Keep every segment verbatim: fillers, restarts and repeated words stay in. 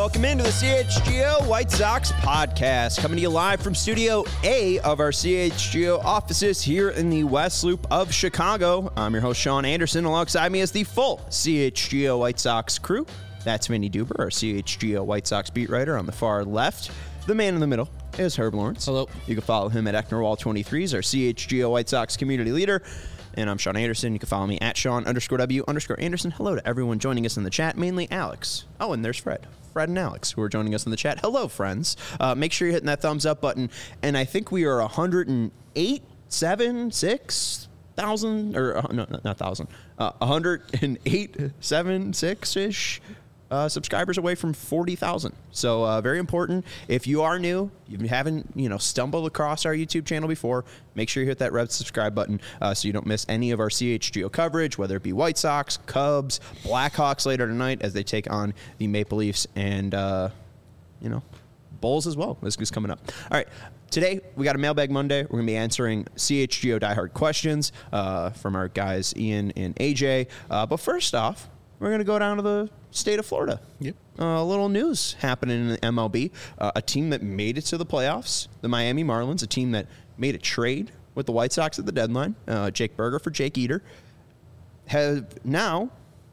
Welcome into the C H G O White Sox podcast, coming to you live from Studio A of our C H G O offices here in the West Loop of Chicago. I'm your host, Sean Anderson. Alongside me is the full C H G O White Sox crew. That's Vinny Duber, our C H G O White Sox beat writer on the far left. The man in the middle is Herb Lawrence. Hello. You can follow him at Ecknerwall twenty-three. He's our C H G O White Sox community leader. And I'm Sean Anderson. You can follow me at Sean underscore W underscore Anderson. Hello to everyone joining us in the chat, mainly Alex. Oh, and there's Fred. Fred and Alex, who are joining us in the chat. Hello, friends. Uh, make sure you're hitting that thumbs up button. And I think we are one hundred eight, seven, six thousand, or uh, no, not, not thousand, uh, one hundred eight, seven, six-ish uh, subscribers away from forty thousand. So uh, very important. If you are new, you haven't, you know, stumbled across our YouTube channel before, make sure you hit that red subscribe button uh, so you don't miss any of our C H G O coverage, whether it be White Sox, Cubs, Blackhawks later tonight as they take on the Maple Leafs and, uh, you know, Bulls as well. This is coming up. All right. Today, we got a Mailbag Monday. We're going to be answering C H G O diehard questions uh, from our guys Ian and A J. Uh, but first off, we're going to go down to the state of Florida. Yep. Uh, a little news happening in the M L B. Uh, a team that made it to the playoffs, the Miami Marlins, a team that made a trade with the White Sox at the deadline, uh, Jake Burger for Jake Eder, have now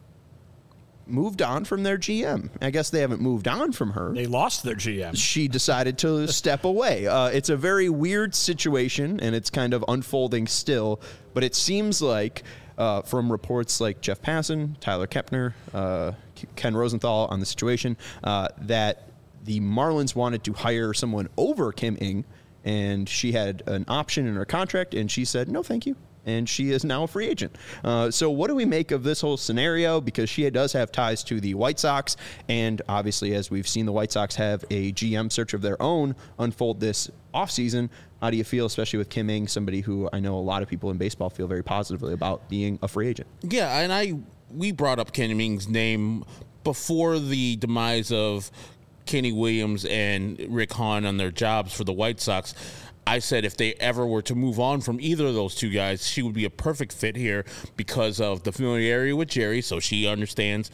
moved on from their G M. I guess they haven't moved on from her. They lost their G M. She decided to step away. Uh, it's a very weird situation, and it's kind of unfolding still, but it seems like Uh, from reports like Jeff Passan, Tyler Kepner, uh, Ken Rosenthal on the situation, uh, that the Marlins wanted to hire someone over Kim Ng, and she had an option in her contract, and she said, no, thank you. And she is now a free agent. Uh, so what do we make of this whole scenario? Because she does have ties to the White Sox. And obviously, as we've seen the White Sox have a G M search of their own unfold this offseason, how do you feel, especially with Kim Ng, somebody who I know a lot of people in baseball feel very positively about being a free agent? Yeah, and I we brought up Kim Ng's name before the demise of Kenny Williams and Rick Hahn on their jobs for the White Sox. I said if they ever were to move on from either of those two guys, she would be a perfect fit here because of the familiarity with Jerry, so she understands.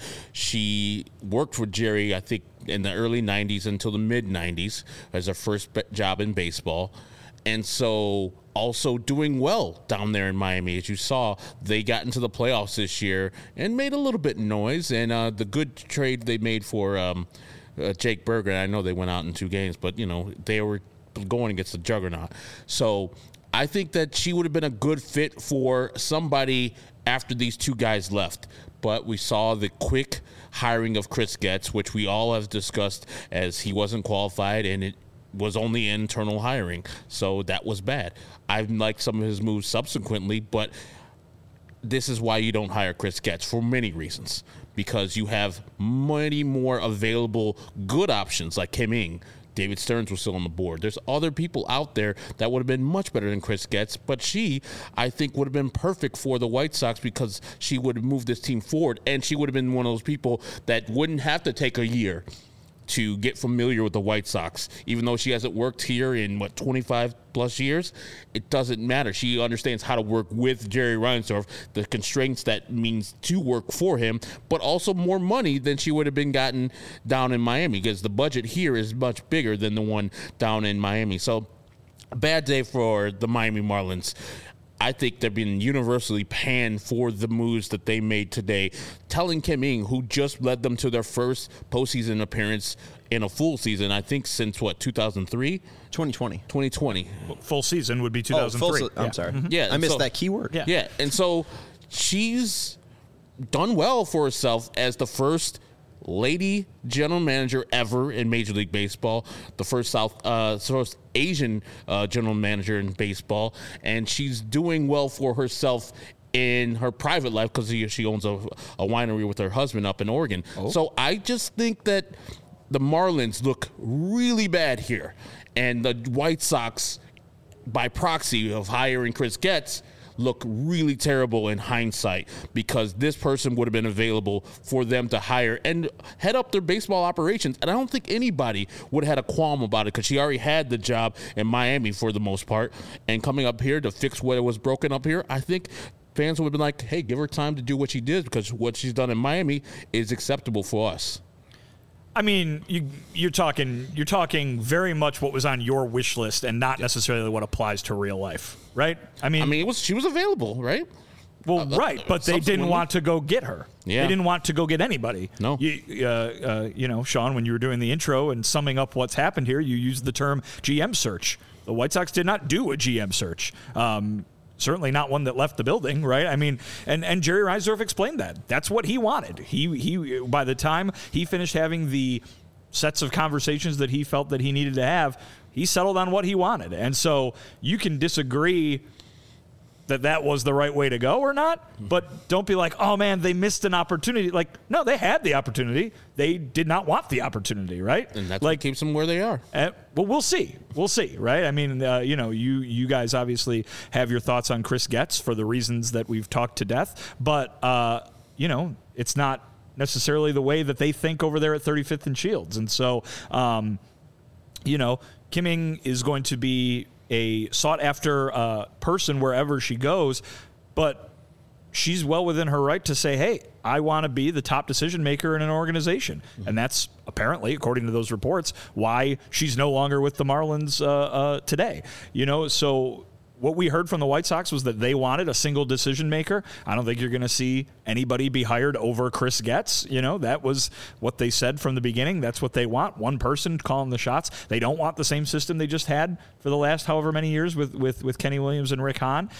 She worked with Jerry, I think, in the early nineties until the mid-nineties as her first job in baseball. And so also doing well down there in Miami. As you saw, they got into the playoffs this year and made a little bit of noise. And uh, the good trade they made for um, uh, Jake Burger, I know they went out in two games, but, you know, they were going against the juggernaut. So I think that she would have been a good fit for somebody after these two guys left. But we saw the quick hiring of Chris Getz, which we all have discussed as he wasn't qualified and it was only internal hiring. So that was bad. I've liked some of his moves subsequently, but this is why you don't hire Chris Getz for many reasons. Because you have many more available good options like Kim Ng. David Stearns was still on the board. There's other people out there that would have been much better than Chris Getz, but she, I think, would have been perfect for the White Sox because she would have moved this team forward, and she would have been one of those people that wouldn't have to take a year to get familiar with the White Sox. Even though she hasn't worked here in, what, twenty-five plus years, it doesn't matter. She understands how to work with Jerry Reinsdorf, the constraints that means to work for him, but also more money than she would have been gotten down in Miami because the budget here is much bigger than the one down in Miami. So, a bad day for the Miami Marlins. I think they're being universally panned for the moves that they made today. Telling Kim Ng, who just led them to their first postseason appearance in a full season, I think since, what, two thousand three? twenty twenty. twenty twenty. Full season would be two thousand three. Oh, full se- I'm yeah. sorry. Mm-hmm. Yeah, I missed so, that keyword. Yeah. Yeah, and so she's done well for herself as the first lady general manager ever in Major League Baseball, the first South uh, first Asian uh, general manager in baseball, and she's doing well for herself in her private life because she owns a, a winery with her husband up in Oregon. Oh. So I just think that the Marlins look really bad here, and the White Sox, by proxy of hiring Chris Getz, look really terrible in hindsight because this person would have been available for them to hire and head up their baseball operations. And I don't think anybody would have had a qualm about it because she already had the job in Miami for the most part. And coming up here to fix what was broken up here, I think fans would have been like, hey, give her time to do what she did because what she's done in Miami is acceptable for us. I mean, you, you're talking you're talking very much what was on your wish list and not necessarily what applies to real life, right? I mean, I mean, it was she was available, right? Well, uh, right, but they didn't want to go get her. Yeah. They didn't want to go get anybody. No. You, uh, uh, you know, Sean, when you were doing the intro and summing up what's happened here, you used the term G M search. The White Sox did not do a G M search. Um, certainly not one that left the building, right? I mean, and, and Jerry Reinsdorf explained that. That's what he wanted. He he. By the time he finished having the sets of conversations that he felt that he needed to have, he settled on what he wanted. And so you can disagree that that was the right way to go or not, but don't be like, oh man, they missed an opportunity. Like, no, they had the opportunity. They did not want the opportunity, right? And that's like, what keeps them where they are. Uh, well, we'll see. We'll see, right? I mean, uh, you know, you you guys obviously have your thoughts on Chris Getz for the reasons that we've talked to death, but, uh, you know, it's not necessarily the way that they think over there at thirty-fifth and Shields. And so, um, you know, Kim Ng is going to be a sought-after uh, person wherever she goes, but she's well within her right to say, hey, I want to be the top decision maker in an organization. Mm-hmm. And that's apparently, according to those reports, why she's no longer with the Marlins uh, uh, today. You know, so what we heard from the White Sox was that they wanted a single decision maker. I don't think you're going to see anybody be hired over Chris Getz. You know, that was what they said from the beginning. That's what they want. One person calling the shots. They don't want the same system they just had for the last however many years with, with, with Kenny Williams and Rick Hahn.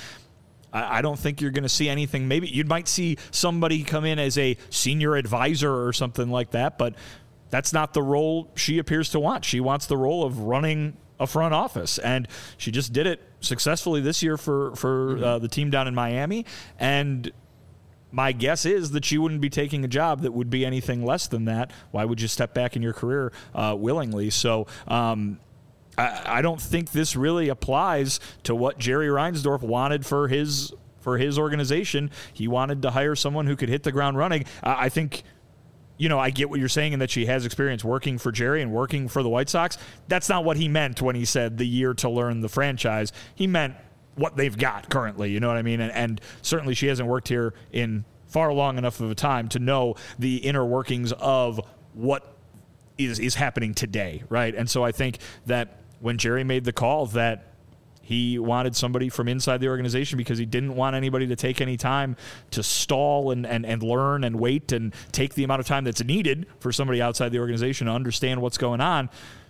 I, I don't think you're going to see anything. Maybe you might see somebody come in as a senior advisor or something like that, but that's not the role she appears to want. She wants the role of running a front office, and she just did it successfully this year for for mm-hmm. uh, the team down in Miami. And my guess is that she wouldn't be taking a job that would be anything less than that. Why would you step back in your career uh, willingly? So um, I, I don't think this really applies to what Jerry Reinsdorf wanted for his for his organization. He wanted to hire someone who could hit the ground running. Uh, I think. You know, I get what you're saying in that she has experience working for Jerry and working for the White Sox. That's not what he meant when he said the year to learn the franchise. He meant what they've got currently, you know what I mean? And, and certainly she hasn't worked here in far long enough of a time to know the inner workings of what is, is happening today, right? And so I think that when Jerry made the call that he wanted somebody from inside the organization because he didn't want anybody to take any time to stall and, and, and learn and wait and take the amount of time that's needed for somebody outside the organization to understand what's going on.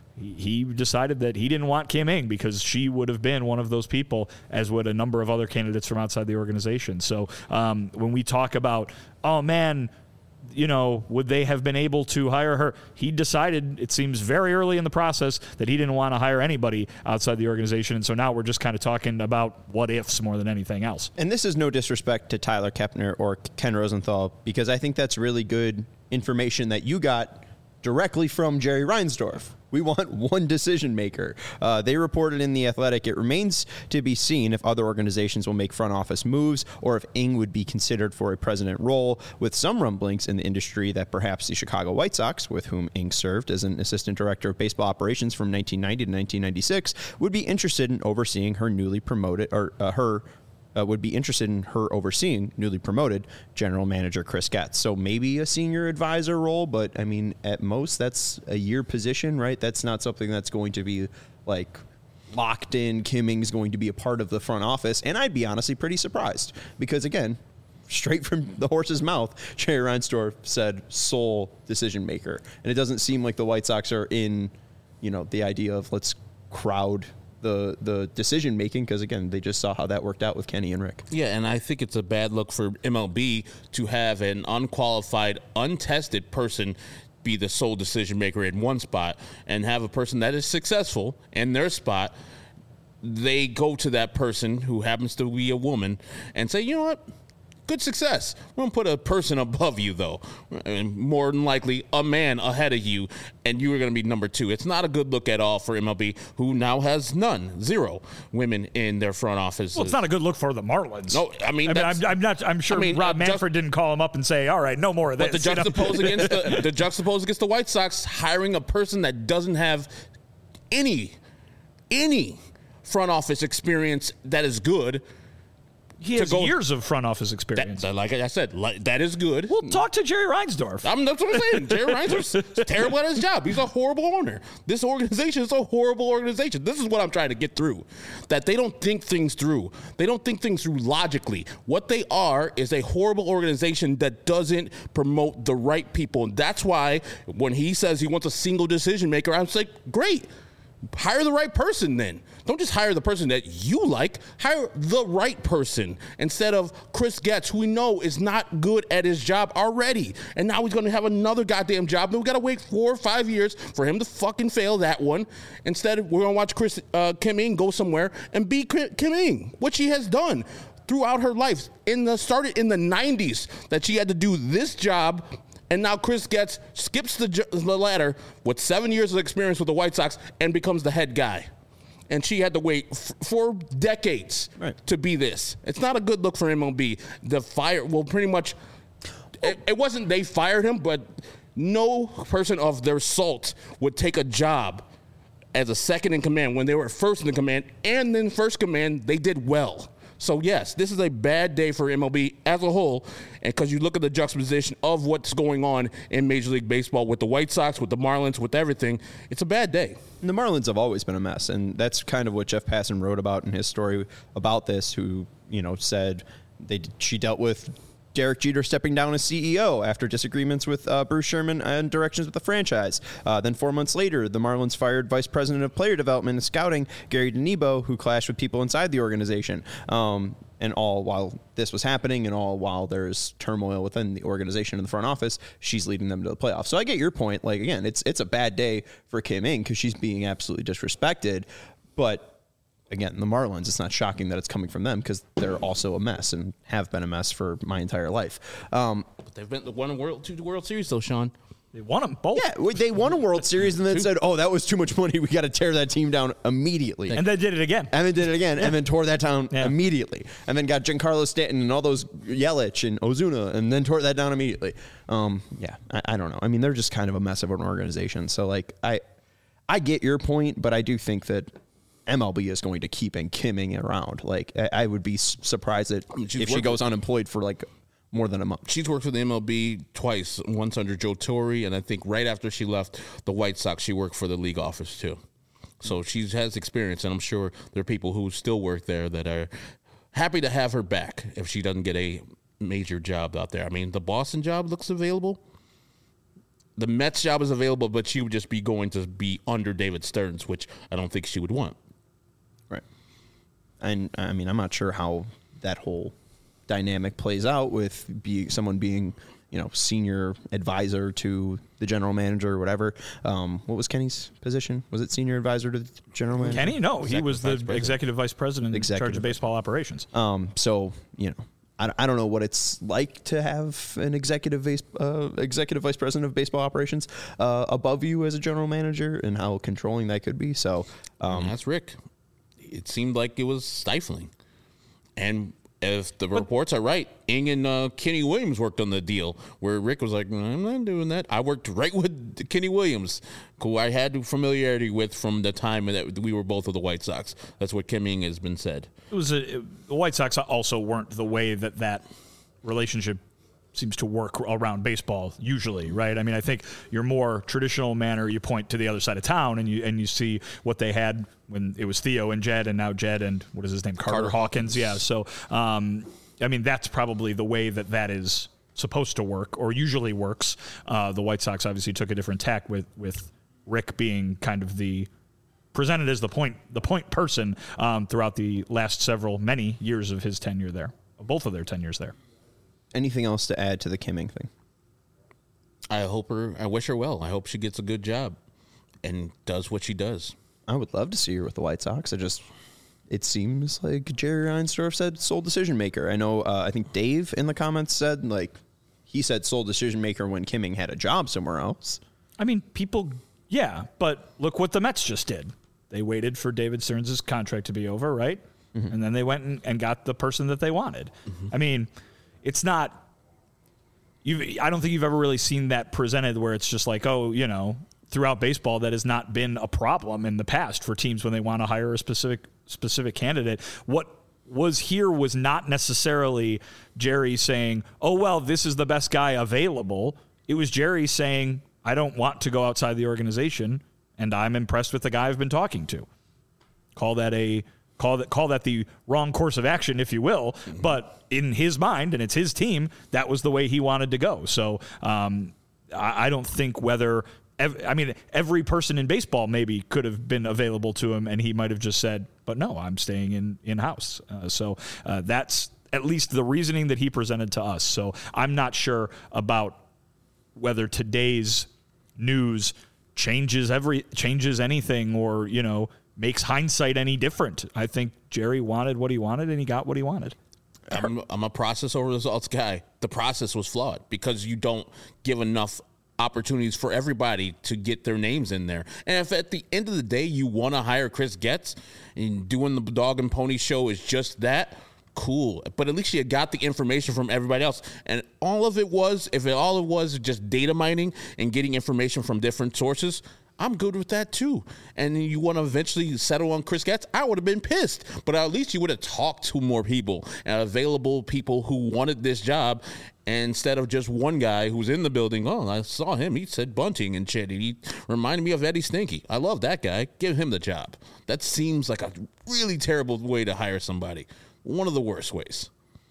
He decided that he didn't want Kim Ng because she would have been one of those people, as would a number of other candidates from outside the organization. So um, when we talk about, oh, man, you know, would they have been able to hire her? He decided, it seems very early in the process, that he didn't want to hire anybody outside the organization. And so now we're just kind of talking about what ifs more than anything else. And this is no disrespect to Tyler Kepner or Ken Rosenthal, because I think that's really good information that you got directly from Jerry Reinsdorf. We want one decision maker. Uh, they reported in The Athletic, it remains to be seen if other organizations will make front office moves or if Ng would be considered for a president role, with some rumblings in the industry that perhaps the Chicago White Sox, with whom Ng served as an assistant director of baseball operations from nineteen ninety to nineteen ninety-six, would be interested in overseeing her newly promoted, or uh, her Uh, would be interested in her overseeing newly promoted general manager Chris Getz. So maybe a senior advisor role, but I mean, at most that's a year position, right? That's not something that's going to be like locked in. Kim Ng's going to be a part of the front office. And I'd be honestly pretty surprised because, again, straight from the horse's mouth, Jerry Reinsdorf said sole decision maker. And it doesn't seem like the White Sox are in, you know, the idea of let's crowd the the decision making, because again they just saw how that worked out with Kenny and Rick. Yeah, and I think it's a bad look for M L B to have an unqualified, untested person be the sole decision maker in one spot and have a person that is successful in their spot. They go to that person who happens to be a woman and say, you know what? Good success. We're going to put a person above you, though, and more than likely a man ahead of you, and you are going to be number two. It's not a good look at all for M L B, who now has none, zero women in their front office. Well, it's not a good look for the Marlins. No, I mean, I mean I'm, I'm not. I'm sure I mean, Rob uh, Manfred just, didn't call him up and say, "All right, no more of this." But the juxtapose you know? against the, the juxtapose against the White Sox hiring a person that doesn't have any any front office experience that is good. He has go, years of front office experience. That, like I said, like, that is good. Well, talk to Jerry Reinsdorf. I'm, that's what I'm saying. Jerry Reinsdorf is terrible at his job. He's a horrible owner. This organization is a horrible organization. This is what I'm trying to get through. That they don't think things through. They don't think things through logically. What they are is a horrible organization that doesn't promote the right people. And that's why when he says he wants a single decision maker, I'm just like, great. Hire the right person then. Don't just hire the person that you like. Hire the right person instead of Chris Getz, who we know is not good at his job already. And now he's going to have another goddamn job. Then we got to wait four or five years for him to fucking fail that one. Instead, we're going to watch Chris uh, Kim Ng go somewhere and be Kim Ng, which she has done throughout her life. In the started in the nineties that she had to do this job. And now Chris Getz skips the, the ladder with seven years of experience with the White Sox and becomes the head guy. And she had to wait f- for decades right. to be this. It's not a good look for M L B. The fire, well, pretty much, it, it wasn't they fired him, but no person of their salt would take a job as a second in command when they were first in command. And then first command, they did well. So, yes, this is a bad day for M L B as a whole, and because you look at the juxtaposition of what's going on in Major League Baseball with the White Sox, with the Marlins, with everything, it's a bad day. And the Marlins have always been a mess, and that's kind of what Jeff Passan wrote about in his story about this, who, you know, said they she dealt with Derek Jeter stepping down as C E O after disagreements with uh, Bruce Sherman and directions with the franchise. Uh, then four months later, the Marlins fired Vice President of Player Development and Scouting, Gary DeNebo, who clashed with people inside the organization. Um, and all while this was happening and all while there's turmoil within the organization in the front office, she's leading them to the playoffs. So I get your point. Like, again, it's it's a bad day for Kim Ng because she's being absolutely disrespected. But again, the Marlins, it's not shocking that it's coming from them because they're also a mess and have been a mess for my entire life. Um, but they've been won a World two World Series though, Sean. They won them both. Yeah, they won a World Series and then said, "Oh, that was too much money. We got to tear that team down immediately." And they did it again. And then did it again, yeah. and then tore that down yeah. immediately. And then got Giancarlo Stanton and all those Yelich and Ozuna, and then tore that down immediately. Um, yeah, I, I don't know. I mean, they're just kind of a mess of an organization. So, like, I, I get your point, but I do think that M L B is going to keep and Kim Ng around. Like, I, I would be surprised that I mean, if she goes unemployed for like more than a month. She's worked for the M L B twice, once under Joe Torre, and I think right after she left the White Sox, she worked for the league office too. So she has experience, and I'm sure there are people who still work there that are happy to have her back if she doesn't get a major job out there. I mean, the Boston job looks available. The Mets job is available, but she would just be going to be under David Stearns, which I don't think she would want. Right. And, I mean, I'm not sure how that whole dynamic plays out with be, someone being, you know, senior advisor to the general manager or whatever. Um, what was Kenny's position? Was it senior advisor to the general manager? Kenny? No, he was the executive vice president executive. in charge of baseball operations. Um, so, you know, I, I don't know what it's like to have an executive vice, uh, executive vice president of baseball operations uh, above you as a general manager and how controlling that could be. So um, that's Rick. It seemed like it was stifling. And if the reports are right, Ng and uh, Kenny Williams worked on the deal where Rick was like, I'm not doing that. I worked right with Kenny Williams, who I had familiarity with from the time that we were both of the White Sox. That's what Kim Ng has been said. It was a, it, the White Sox also weren't the way that that relationship seems to work around baseball usually, right? I mean, I think your more traditional manner, you point to the other side of town and you and you see what they had when it was Theo and Jed and now Jed and what is his name? Carter, Carter Hawkins. Yeah. So, um, I mean, that's probably the way that that is supposed to work or usually works. Uh, the White Sox obviously took a different tack with, with Rick being kind of the presented as the point, the point person um, throughout the last several, many years of his tenure there, both of their tenures there. Anything else to add to the Kim Ng thing? I hope her, I wish her well. I hope she gets a good job and does what she does. I would love to see her with the White Sox. I just, it seems like Jerry Reinsdorf said sole decision maker. I know, uh, I think Dave in the comments said, like, he said sole decision maker when Kim Ng had a job somewhere else. I mean, people, yeah, but look what the Mets just did. They waited for David Stearns' contract to be over, right? Mm-hmm. And then they went and, and got the person that they wanted. Mm-hmm. I mean, it's not, you've, I don't think you've ever really seen that presented where it's just like, oh, you know, throughout baseball, that has not been a problem in the past for teams when they want to hire a specific specific candidate. What was here was not necessarily Jerry saying, oh, well, this is the best guy available. It was Jerry saying, I don't want to go outside the organization, and I'm impressed with the guy I've been talking to. Call that a call that call that the wrong course of action, if you will. Mm-hmm. But in his mind, and it's his team, that was the way he wanted to go. So um, I, I don't think whether ev- I mean every person in baseball maybe could have been available to him, and he might have just said, "But no, I'm staying in in house." Uh, so uh, that's at least the reasoning that he presented to us. So I'm not sure about whether today's news changes every changes anything, or you know, makes hindsight any different. I think Jerry wanted what he wanted, and he got what he wanted. I'm, I'm a process over results guy. The process was flawed because you don't give enough opportunities for everybody to get their names in there. And if at the end of the day you want to hire Chris Getz and doing the dog and pony show is just that, cool. But at least you got the information from everybody else. And all of it was, if it all it was just data mining and getting information from different sources, I'm good with that too. And you want to eventually settle on Chris Getz, I would have been pissed. But at least you would have talked to more people and available people who wanted this job, instead of just one guy who's in the building. Oh, I saw him. He said bunting and shit. He reminded me of Eddie Stinky. I love that guy. Give him the job. That seems like a really terrible way to hire somebody. One of the worst ways.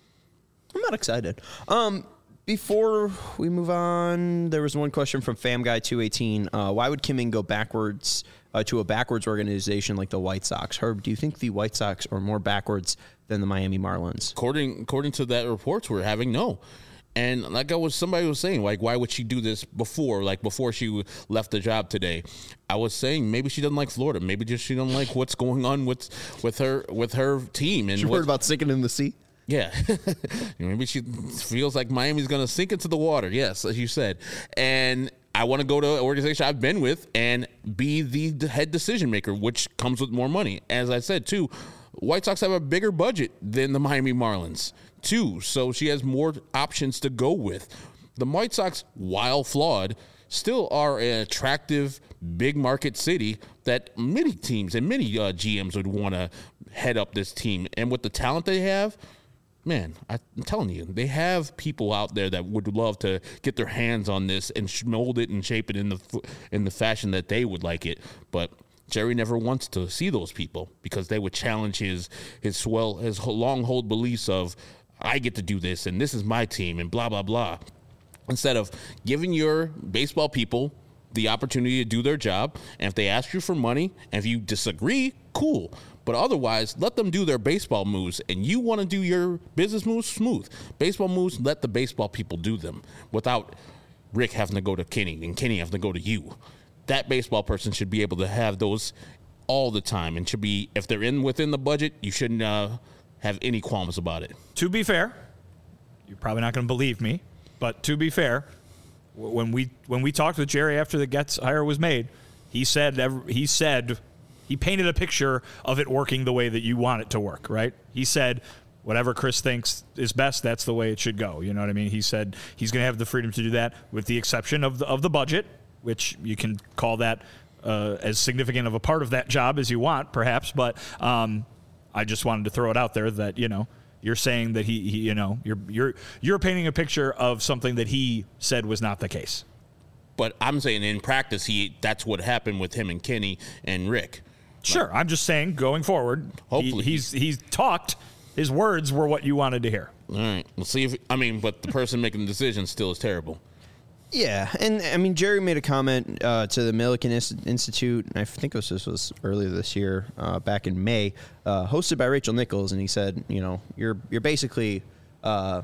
I'm not excited. Um, before we move on, there was one question from FamGuy two eighteen. Uh, why would Kim Ng go backwards uh, to a backwards organization like the White Sox? Herb, do you think the White Sox are more backwards than the Miami Marlins? According according to that reports we're having, no. And like I was, somebody was saying, like, why would she do this before, like before she left the job today? I was saying maybe she doesn't like Florida. Maybe just she doesn't like what's going on with with her with her team. And she heard about sinking in the sea. Yeah, maybe she feels like Miami's going to sink into the water. Yes, as you said. And I want to go to an organization I've been with and be the head decision maker, which comes with more money. As I said, too, White Sox have a bigger budget than the Miami Marlins, too. So she has more options to go with. The White Sox, while flawed, still are an attractive, big market city that many teams and many uh, G Ms would want to head up this team. And with the talent they have, man, I'm telling you, they have people out there that would love to get their hands on this and mold it and shape it in the in the fashion that they would like it. But Jerry never wants to see those people because they would challenge his his swell his long hold beliefs of I get to do this and this is my team and blah blah blah. Instead of giving your baseball people the opportunity to do their job, and if they ask you for money, and if you disagree, cool. But otherwise, let them do their baseball moves, and you want to do your business moves, smooth. Baseball moves, let the baseball people do them without Rick having to go to Kenny and Kenny having to go to you. That baseball person should be able to have those all the time, and should be, if they're in within the budget, you shouldn't uh, have any qualms about it. To be fair, you're probably not going to believe me, but to be fair, when we when we talked with Jerry after the Getz hire was made, he said he said he painted a picture of it working the way that you want it to work, right? He said whatever Chris thinks is best, that's the way it should go. You know what I mean? He said he's going to have the freedom to do that, with the exception of the of the budget, which you can call that uh, as significant of a part of that job as you want, perhaps. But um, I just wanted to throw it out there that, you know, you're saying that he, he, you know, you're you're you're painting a picture of something that he said was not the case. But I'm saying in practice, he that's what happened with him and Kenny and Rick. Sure, like, I'm just saying going forward, hopefully he, he's he's talked. His words were what you wanted to hear. All right, we'll see if I mean, but the person making the decision still is terrible. Yeah, and I mean, Jerry made a comment uh, to the Millikan Institute, and I think this was earlier this year, uh, back in May, uh, hosted by Rachel Nichols, and he said, you know, you're you're basically uh,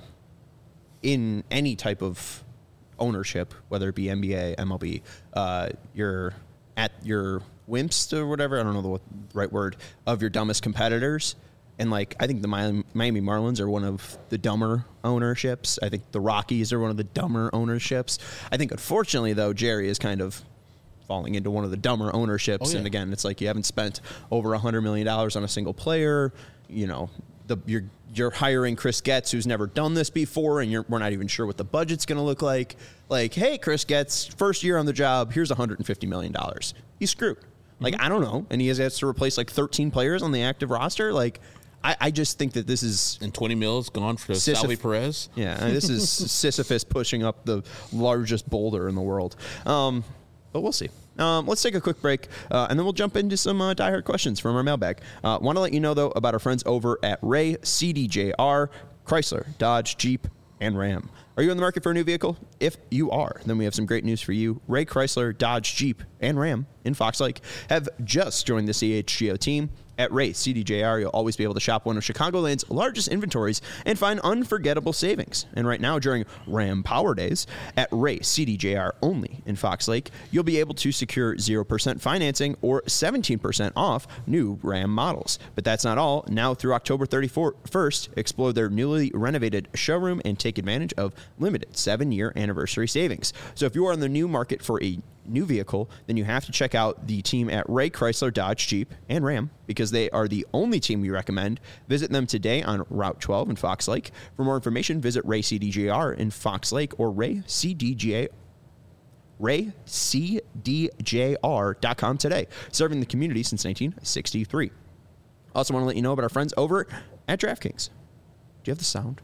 in any type of ownership, whether it be N B A, M L B, uh, you're at your wimps or whatever, I don't know the right word, of your dumbest competitors. And, like, I think the Miami Marlins are one of the dumber ownerships. I think the Rockies are one of the dumber ownerships. I think, unfortunately, though, Jerry is kind of falling into one of the dumber ownerships. Oh, yeah. And, again, it's like you haven't spent over one hundred million dollars on a single player. You know, the, you're you're hiring Chris Getz, who's never done this before, and you're, we're not even sure what the budget's going to look like. Like, hey, Chris Getz, first year on the job, here's one hundred fifty million dollars. He's screwed. Like, mm-hmm. I don't know. And he has, has to replace, like, thirteen players on the active roster. Like, I, I just think that this is And twenty mils gone for Sisyph- Salvi Perez. yeah, I mean, this is Sisyphus pushing up the largest boulder in the world. Um, but we'll see. Um, let's take a quick break, uh, and then we'll jump into some uh, diehard questions from our mailbag. Uh, Want to let you know, though, about our friends over at Ray C D J R, Chrysler, Dodge, Jeep, and Ram. Are you in the market for a new vehicle? If you are, then we have some great news for you. Ray Chrysler, Dodge, Jeep, and Ram in Fox Lake have just joined the C H G O team. At Ray C D J R, you'll always be able to shop one of Chicagoland's largest inventories and find unforgettable savings. And right now, during Ram Power Days, at Ray C D J R only in Fox Lake, you'll be able to secure zero percent financing or seventeen percent off new Ram models. But that's not all. Now through October thirty-first, explore their newly renovated showroom and take advantage of limited seven-year anniversary savings. So if you are in the new market for a new vehicle, then you have to check out the team at Ray Chrysler, Dodge, Jeep, and Ram because they are the only team we recommend. Visit them today on Route twelve in Fox Lake. For more information, visit Ray C D J R in Fox Lake or Ray C D J Ray C D J R dot com today. Serving the community since nineteen sixty-three. Also want to let you know about our friends over at DraftKings. Do you have the sound?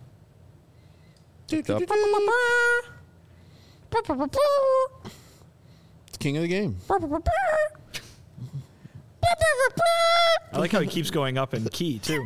King of the game. I like how he keeps going up in key, too.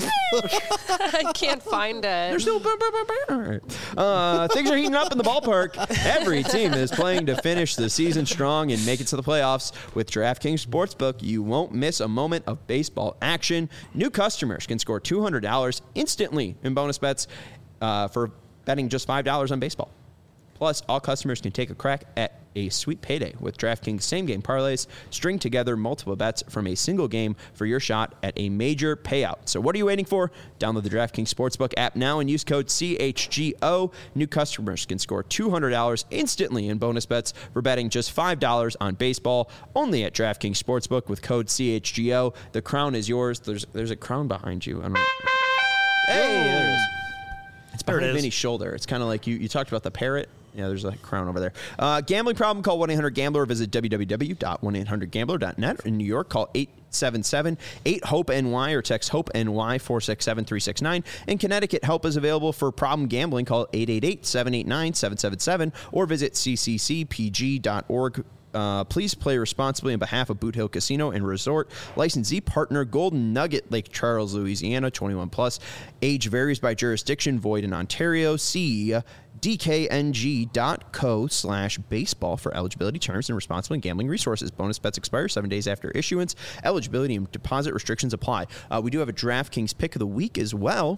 I can't find it. There's no. All right. Uh, things are heating up in the ballpark. Every team is playing to finish the season strong and make it to the playoffs. With DraftKings Sportsbook, you won't miss a moment of baseball action. New customers can score two hundred dollars instantly in bonus bets uh, for betting just five dollars on baseball. Plus, all customers can take a crack at a sweet payday with DraftKings same-game parlays. String together multiple bets from a single game for your shot at a major payout. So what are you waiting for? Download the DraftKings Sportsbook app now and use code C H G O. New customers can score two hundred dollars instantly in bonus bets for betting just five dollars on baseball. Only at DraftKings Sportsbook with code C H G O. The crown is yours. There's there's a crown behind you. I don't know. Hey, there it is. It's behind Vinny's shoulder. It's kind of like you, you talked about the parrot. Yeah, there's a crown over there. Uh, gambling problem? Call one eight hundred gambler or visit w w w dot one eight hundred gambler dot net. In New York, call eight seven seven eight hope N Y or text HOPE-NY four six seven three six nine. In Connecticut, help is available for problem gambling. Call eight eight eight seven eight nine seven seven seven or visit c c c p g dot org. Uh, please play responsibly on behalf of Boot Hill Casino and Resort. Licensee partner Golden Nugget, Lake Charles, Louisiana, twenty-one plus. Age varies by jurisdiction, void in Ontario. See d k n g dot co slash baseball for eligibility terms and responsible gambling resources. Bonus bets expire seven days after issuance. Eligibility and deposit restrictions apply. Uh, we do have a DraftKings pick of the week as well.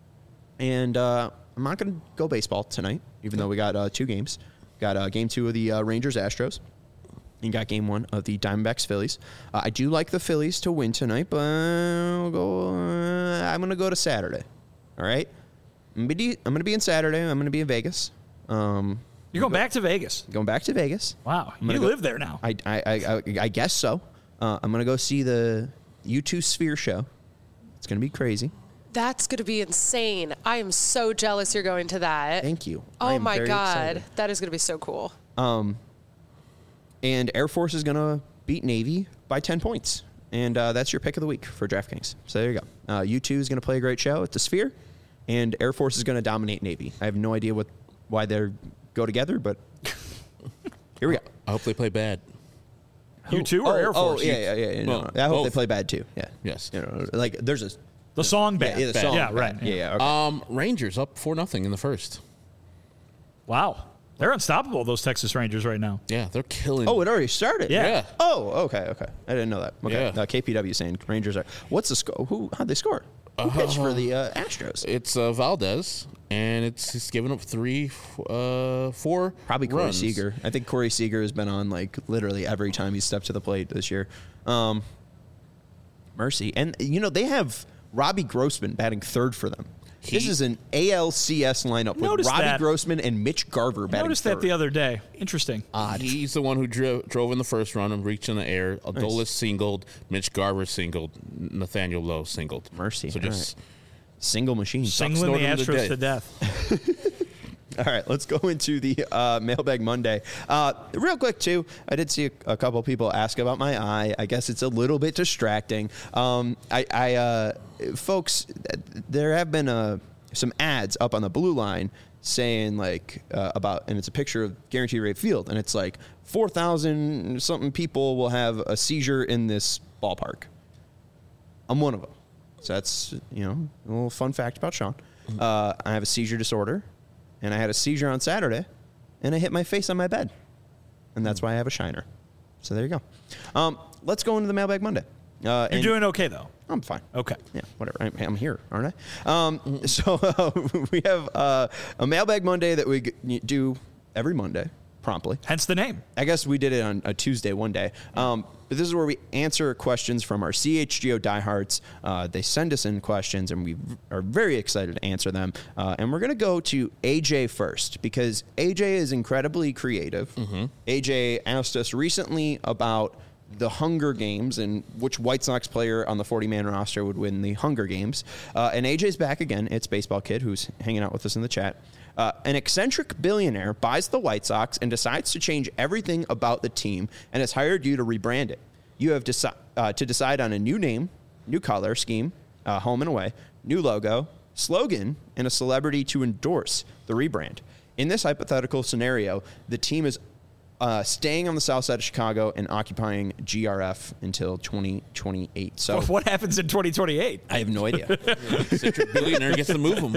And uh, I'm not going to go baseball tonight, even though we got uh, two games. Got uh, game two of the uh, Rangers-Astros. And got game one of the Diamondbacks Phillies. Uh, I do like the Phillies to win tonight, but I'll go, uh, I'm going to go to Saturday. All right? I'm going to be in Saturday. I'm going to be in Vegas. Um, You're going back to Vegas? Going back to Vegas. Wow. You go, live there now. I, I, I, I guess so. Uh, I'm going to go see the U two Sphere show. It's going to be crazy. That's going to be insane. I am so jealous you're going to that. Thank you. I Oh, am my very God. excited. That is going to be so cool. Um, and Air Force is going to beat Navy by ten points. And uh, that's your pick of the week for DraftKings. So there you go. Uh, U two is going to play a great show at the Sphere, and Air Force is going to dominate Navy. I have no idea what why they go together, but here we go. I hope they play bad. You too, or oh, Air Force? Oh, yeah, yeah, yeah. yeah Well, no, I hope both. they play bad too. Yeah. Yes. You know, like there's a The song band. yeah, the song Yeah, bad. right. Yeah, yeah. Okay. Um, Rangers up four nothing in the first. Wow. They're unstoppable, those Texas Rangers right now. Yeah, they're killing. Oh, it already started. Yeah. Yeah. Oh, okay, okay. I didn't know that. Okay. Yeah. Uh, K P W saying Rangers are. What's the score? Who? How'd they score? Who pitched for the uh, Astros? It's uh, Valdez, and it's it's giving up three, uh, four. Probably Corey runs. Seager. I think Corey Seager has been on like literally every time he's stepped to the plate this year. Um, mercy, and you know they have Robbie Grossman batting third for them. He- this is an A L C S lineup with Noticed Robbie that. Grossman and Mitch Garver I batting noticed third. that the other day. Interesting. Odd. He's the one who dro- drove in the first run and reached in the air. Adolis singled, Mitch Garver singled, Nathaniel Lowe singled. Mercy. So All just Single machine. Singling the snorted him to Astros to death. death. All right, let's go into the uh, Mailbag Monday. Uh, real quick, too, I did see a, a couple people ask about my eye. I guess it's a little bit distracting. Um, I, I uh, folks, there have been uh, some ads up on the blue line saying like uh, about, and it's a picture of Guaranteed Rate Field, and it's like four thousand something people will have a seizure in this ballpark. I'm one of them. So that's, you know, a little fun fact about Sean. Uh, I have a seizure disorder, and I had a seizure on Saturday, and I hit my face on my bed, and that's why I have a shiner. So there you go. Um, let's go into the Mailbag Monday. Uh, You're doing okay, though. I'm fine. Okay. Yeah, whatever. I'm, I'm here, aren't I? Um, so uh, we have uh, a Mailbag Monday that we g- do every Monday, promptly. Hence the name. I guess we did it on a Tuesday one day. Um, but this is where we answer questions from our C H G O diehards. Uh, they send us in questions, and we are very excited to answer them. Uh, and we're going to go to A J first, because A J is incredibly creative. Mm-hmm. A J asked us recently about the Hunger Games and which White Sox player on the forty-man roster would win the Hunger Games. Uh, and A J's back again. It's Baseball Kid, who's hanging out with us in the chat. Uh, an eccentric billionaire buys the White Sox and decides to change everything about the team and has hired you to rebrand it. You have deci- uh, to decide on a new name, new color scheme, uh, home and away, new logo, slogan, and a celebrity to endorse the rebrand. In this hypothetical scenario, the team is uh, staying on the south side of Chicago and occupying G R F until twenty twenty-eight. So What happens in twenty twenty-eight? I have no idea. Eccentric billionaire gets to move them.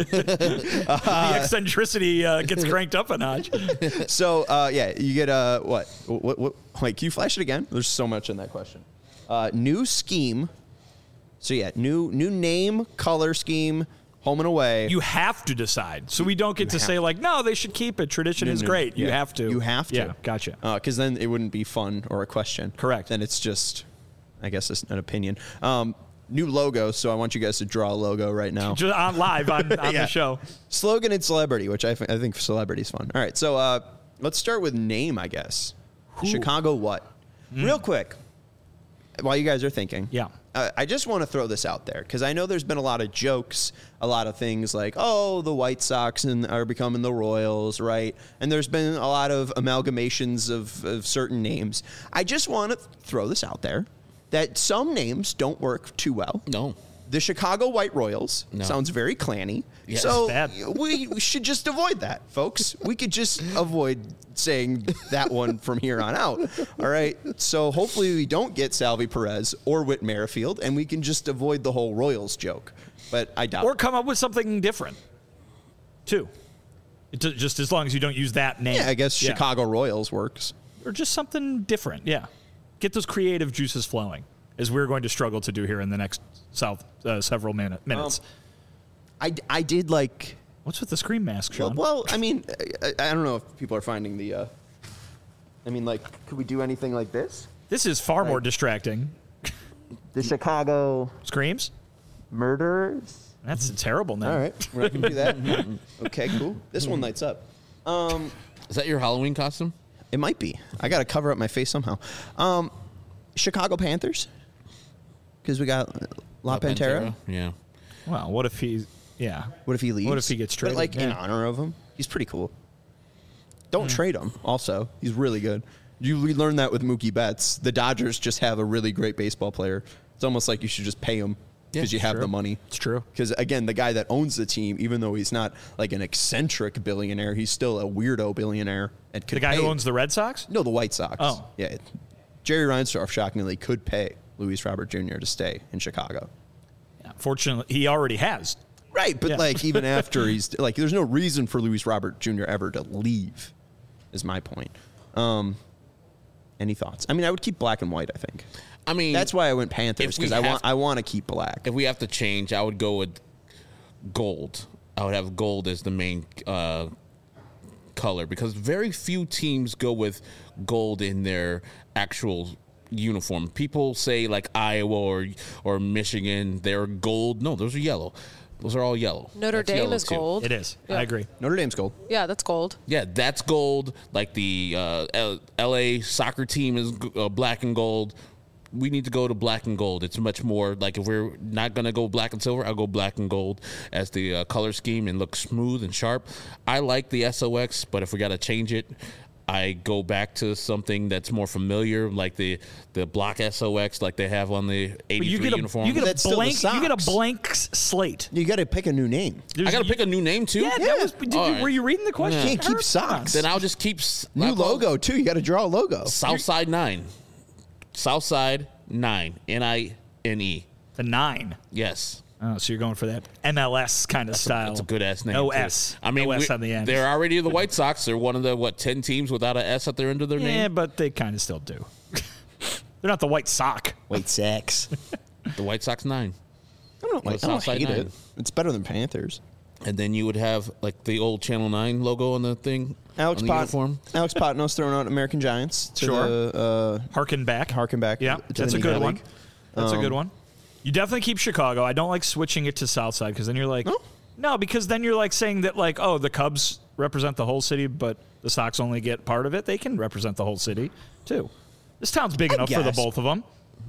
the eccentricity uh, gets cranked up a notch. So, uh, yeah, you get a, what? What, what? Like, can you flash it again? There's so much in that question. Uh, new scheme. So, yeah, new new name, color scheme, home and away. You have to decide. So we don't get to say, like, no, they should keep it. Tradition No, is no, great. You yeah. have to. You have to. Yeah, gotcha. Because then it wouldn't be fun or a question. Correct. Then it's just, I guess, it's an opinion. Um, new logo. So I want you guys to draw a logo right now. Just on live on, on Yeah. the show. Slogan and celebrity, which I, f- I think celebrity is fun. All right, so uh, let's start with name, I guess. Chicago what? Real quick, while you guys are thinking. Yeah. Uh, I just want to throw this out there because I know there's been a lot of jokes, a lot of things like, oh, the White Sox and are becoming the Royals, right? And there's been a lot of amalgamations of, of certain names. I just want to throw this out there that some names don't work too well. No. The Chicago White Royals No. sounds very clanny. Yes. So Bad. we, we should just avoid that, folks. We could just avoid saying that one from here on out. All right. So hopefully we don't get Salvi Perez or Whit Merrifield, and we can just avoid the whole Royals joke. But I doubt Or it. come up with something different, too. It, ju- just as long as you don't use that name. Yeah, I guess Yeah. Chicago Royals works. Or just something different, yeah. Get those creative juices flowing, as we're going to struggle to do here in the next south uh, several minute, minutes. Um, I, I did like... What's with the scream mask, Well, Sean? well I mean, I, I don't know if people are finding the... Uh, I mean, like, could we do anything like this? This is far more distracting. The Chicago Screams? Murderers? That's a terrible name. All right, we're not gonna do that. Okay, cool. This one lights up. Um, Is that your Halloween costume? it might be. I got to cover up my face somehow. Um, Chicago Panthers, because we got La, La Pantera. Yeah. Well, what if he, yeah. What if he leaves? What if he gets But, traded? like in Yeah. honor of him, he's pretty cool. Don't trade him. Also, he's really good. You we learned that with Mookie Betts. The Dodgers just have a really great baseball player. It's almost like you should just pay him because Yeah, you have true. the money. It's true. Because again, the guy that owns the team, even though he's not like an eccentric billionaire, he's still a weirdo billionaire. And could The guy pay- who owns the Red Sox? no, the White Sox. Oh. yeah. Jerry Reinsdorf shockingly could pay Luis Robert Junior to stay in Chicago. Yeah, fortunately, he already has. Right, but Yeah. like even after he's like, there's no reason for Luis Robert Junior ever to leave. Is my point. Um, any thoughts? I mean, I would keep black and white. I think I mean, that's why I went Panthers if we because I want have- I want to keep black. if we have to change, I would go with gold. I would have gold as the main uh, color because very few teams go with gold in their actual uniform. People say like Iowa or or Michigan, they're gold. No, those are yellow. Those are all yellow. Notre That's Dame yellow is too. gold. It is. Yeah. I agree. Notre Dame's gold. Yeah, that's gold. Yeah, that's gold. Like the uh, L- LA soccer team is g- uh, black and gold. We need to go to black and gold. It's much more like if we're not going to go black and silver, I'll go black and gold as the uh, color scheme and look smooth and sharp. I like the S O X, but if we got to change it, I go back to something that's more familiar, like the the block S O X, like they have on the eighty-three you get a, uniform. You get That's a still the blank. You get a socks. blank s- slate. You got to pick a new name. I got to pick a new name too. Yeah, Yeah. that was. Did All you, right. Were you reading the question? You can't keep Herb? socks. Then I'll just keep s- New I'll call it logo too. You got to draw a logo. Southside Nine. Southside Nine. N I N E. The nine. Yes. Oh, so you're going for that M L S kind of style. It's a good ass name. No too. S. I mean, no S we- on the end. they're already the White Sox. They're one of the what ten teams without an S at their end of their yeah, name. but they kind of still do. They're not the White Sock. Wait, sex. The White Sox Nine. I don't, like, The I don't Southside hate Nine. it. It's better than Panthers. And then you would have like the old Channel Nine logo on the thing. Alex on the Pot, uniform. Alex Potnos throwing out American Giants to Sure. the Harken back. uh, harken back. Yeah, to that's the a good Negro one. League. That's a good Um, one. You definitely keep Chicago. I don't like switching it to Southside because then you're like, No? no, because then you're like saying that like, oh, the Cubs represent the whole city, but the Sox only get part of it. They can represent the whole city too. This town's big I enough for the guess. both of them.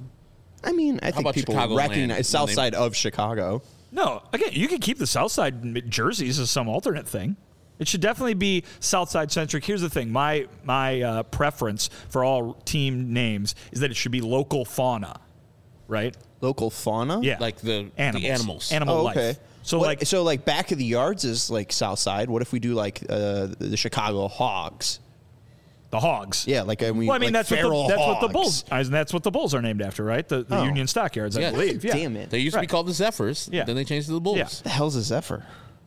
I mean, I think about people Chicagoland recognize South when they- side of Chicago. No, again, you could keep the Southside jerseys as some alternate thing. It should definitely be Southside centric. Here's the thing: my my uh, preference for all team names is that it should be local fauna, right? Local fauna. Yeah, Like the animals, the animals. animal Oh, life. okay. So What- like, so like back of the yards is like South Side. What if we do like uh, the Chicago Hogs? the hogs. Yeah, like I mean, Well, I mean like that's what the, feral that's what the hogs. bulls. And that's what the bulls are named after, right? The, the Oh. Union Stockyards, I Yeah. believe. Yeah. Damn it! They used to be Right. called the Zephyrs. Yeah. Then they changed to the Bulls. Yeah. the hell's a Zephyr?